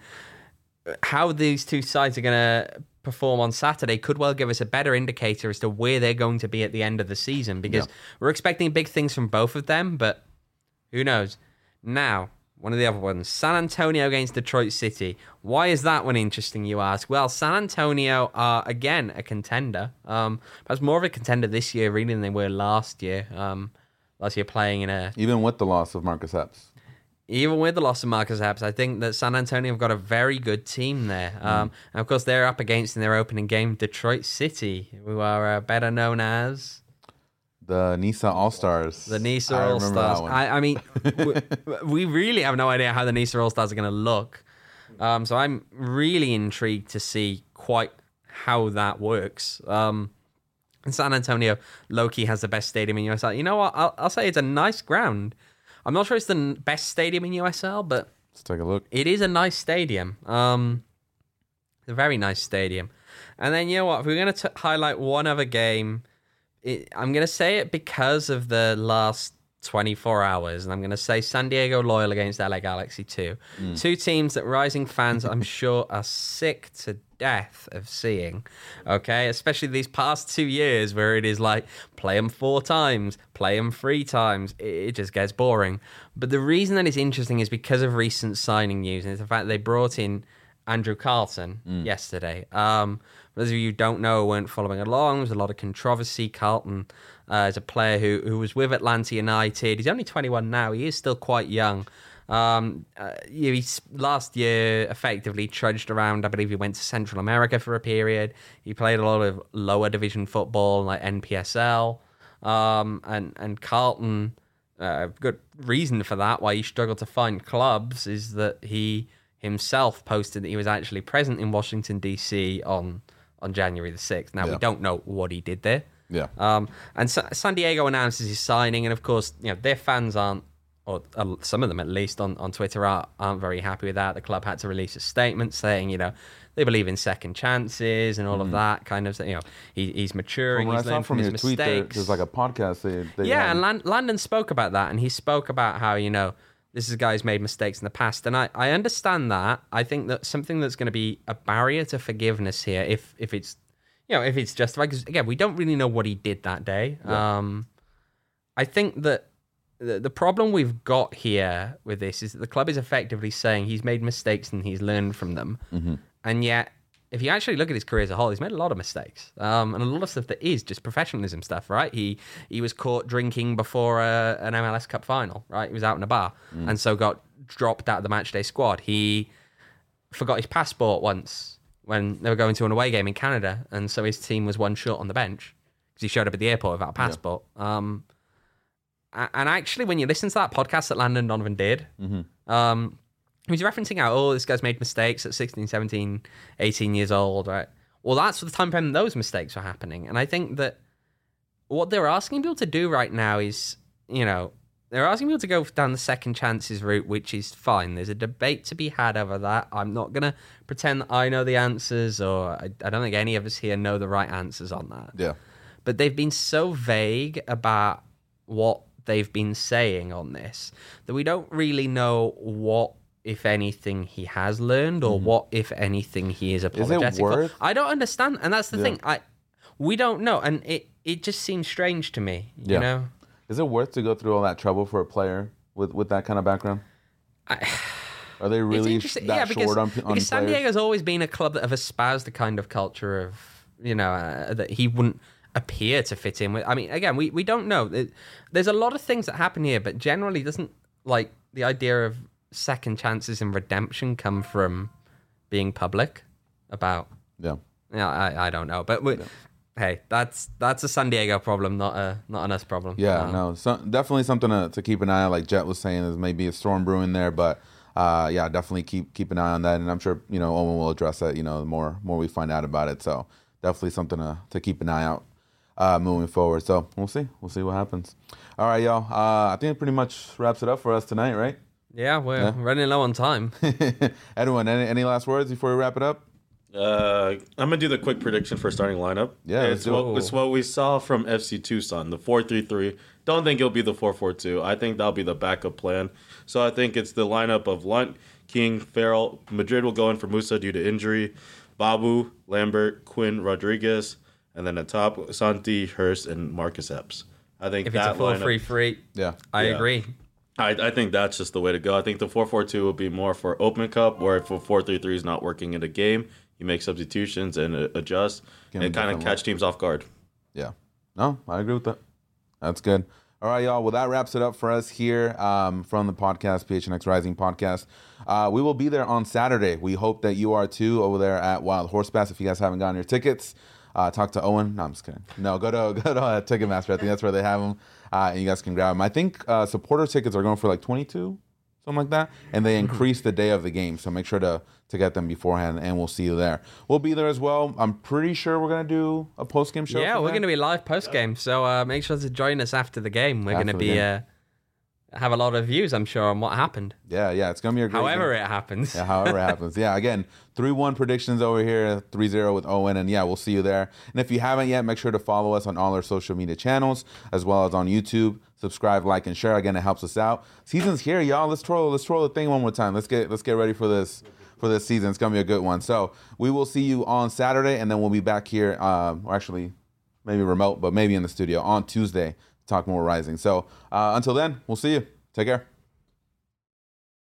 how these 2 sides are going to perform on Saturday could well give us a better indicator as to where they're going to be at the end of the season, because we're expecting big things from both of them, but who knows? Now, one of the other ones, San Antonio against Detroit City. Why is that one interesting, you ask? Well, San Antonio are, again, a contender. Perhaps more of a contender this year, really, than they were last year. Last year playing in a... Even with the loss of Marcus Epps. Even with the loss of Marcus Epps, I think that San Antonio have got a very good team there. And, of course, they're up against, in their opening game, Detroit City, who are better known as... The NISA All-Stars. The NISA All-Stars. I mean, we really have no idea how the NISA All-Stars are going to look. So I'm really intrigued to see quite how that works. And San Antonio, low-key, has the best stadium in USL. You know what? I'll say it's a nice ground. I'm not sure it's the best stadium in USL, but... Let's take a look. It is a nice stadium. It's a very nice stadium. And then, you know what? If we're going to highlight one other game... I'm going to say it because of the last 24 hours, and I'm going to say San Diego Loyal against LA Galaxy 2. 2 teams that Rising fans, I'm sure, are sick to death of seeing, okay? Especially these past 2 years where it is like, play them 4 times, play them 3 times. It just gets boring. But the reason that it's interesting is because of recent signing news, and it's the fact that they brought in Andrew Carlton yesterday. For those of you who don't know, weren't following along, there's a lot of controversy. Carlton is a player who was with Atlanta United. He's only 21 now. He is still quite young. He's last year effectively trudged around. I believe he went to Central America for a period. He played a lot of lower division football like NPSL. And Carlton, good reason for that, why he struggled to find clubs, is that he himself posted that he was actually present in Washington, D.C. on January the 6th. Now, we don't know what he did there. Yeah. And San Diego announces his signing, and of course, their fans aren't, or some of them at least on Twitter aren't very happy with that. The club had to release a statement saying, they believe in second chances and all of that kind of thing. He's maturing, he's learned from his mistakes. There's like a podcast. And Landon spoke about that, and he spoke about how, this is a guy who's made mistakes in the past, and I understand that. I think that something that's going to be a barrier to forgiveness here, if it's justified, because again, we don't really know what he did that day. Yeah. I think that the problem we've got here with this is that the club is effectively saying he's made mistakes and he's learned from them, and yet, if you actually look at his career as a whole, he's made a lot of mistakes, and a lot of stuff that is just professionalism stuff, right? He was caught drinking before an MLS Cup final, right? He was out in a bar, and so got dropped out of the matchday squad. He forgot his passport once when they were going to an away game in Canada, and so his team was one short on the bench because he showed up at the airport without a passport. Yeah. And actually, when you listen to that podcast that Landon Donovan did, he was referencing how, oh, this guy's made mistakes at 16, 17, 18 years old, right? Well, that's the time frame those mistakes were happening. And I think that what they're asking people to do right now is, they're asking people to go down the second chances route, which is fine. There's a debate to be had over that. I'm not going to pretend that I know the answers, or I don't think any of us here know the right answers on that. Yeah. But they've been so vague about what they've been saying on this that we don't really know what, if anything, he has learned, or what, if anything, he is apologetic. Is it worth? I don't understand, and that's the thing. We don't know, and it just seems strange to me. You know. Is it worth to go through all that trouble for a player with that kind of background? Are they really that short on because San Diego's always been a club that have espoused the kind of culture of, that he wouldn't appear to fit in with. I mean, again, we don't know. There's a lot of things that happen here, but generally doesn't, like, the idea of second chances and redemption come from being public about. Yeah. Yeah, I don't know. But hey, that's a San Diego problem, not an us problem. Yeah, no, definitely something to keep an eye on. Like Jet was saying, there's maybe a storm brewing there, but definitely keep an eye on that. And I'm sure Owen will address that. The more we find out about it. So definitely something to keep an eye out moving forward. So we'll see what happens. All right, y'all. I think it pretty much wraps it up for us tonight, right? Yeah, we're running low on time. Edwin, any last words before we wrap it up? I'm gonna do the quick prediction for starting lineup. Yeah, it's what we saw from FC Tucson, the 4-3-3. Don't think it'll be the 4-4-2. I think that'll be the backup plan. So I think it's the lineup of Lunt, King, Farrell. Madrid will go in for Musa due to injury. Babu, Lambert, Quinn, Rodriguez, and then at top Santi, Hurst, and Marcus Epps. I think if that it's a 4-3-3, I agree. I think that's just the way to go. I think the 4-4-2 will be more for Open Cup, where if a 4-3-3 is not working in a game, you make substitutions and adjust and kind of catch teams off guard. Yeah. No, I agree with that. That's good. All right, y'all. Well, that wraps it up for us here from the podcast, PHNX Rising Podcast. We will be there on Saturday. We hope that you are too over there at Wild Horse Pass. If you guys haven't gotten your tickets, talk to Owen. No, I'm just kidding. No, go to Ticketmaster. I think that's where they have them, and you guys can grab them. I think supporter tickets are going for like $22, something like that, and they increase the day of the game. So make sure to get them beforehand, and we'll see you there. We'll be there as well. I'm pretty sure we're going to do a post-game show. Yeah, we're going to be live post-game, so make sure to join us after the game. We're going to be have a lot of views, I'm sure, on what happened. Yeah, it's going to be a great However game. It happens. Yeah, however it happens. Yeah, again, 3-1 predictions over here, 3-0 with Owen, and we'll see you there. And if you haven't yet, make sure to follow us on all our social media channels, as well as on YouTube. Subscribe, like, and share. Again, it helps us out. Season's here, y'all. Let's troll the thing one more time. Let's get ready for this season. It's gonna be a good one. So we will see you on Saturday, and then we'll be back here, or actually maybe remote, but maybe in the studio on Tuesday to talk more Rising. So until then, we'll see you. Take care.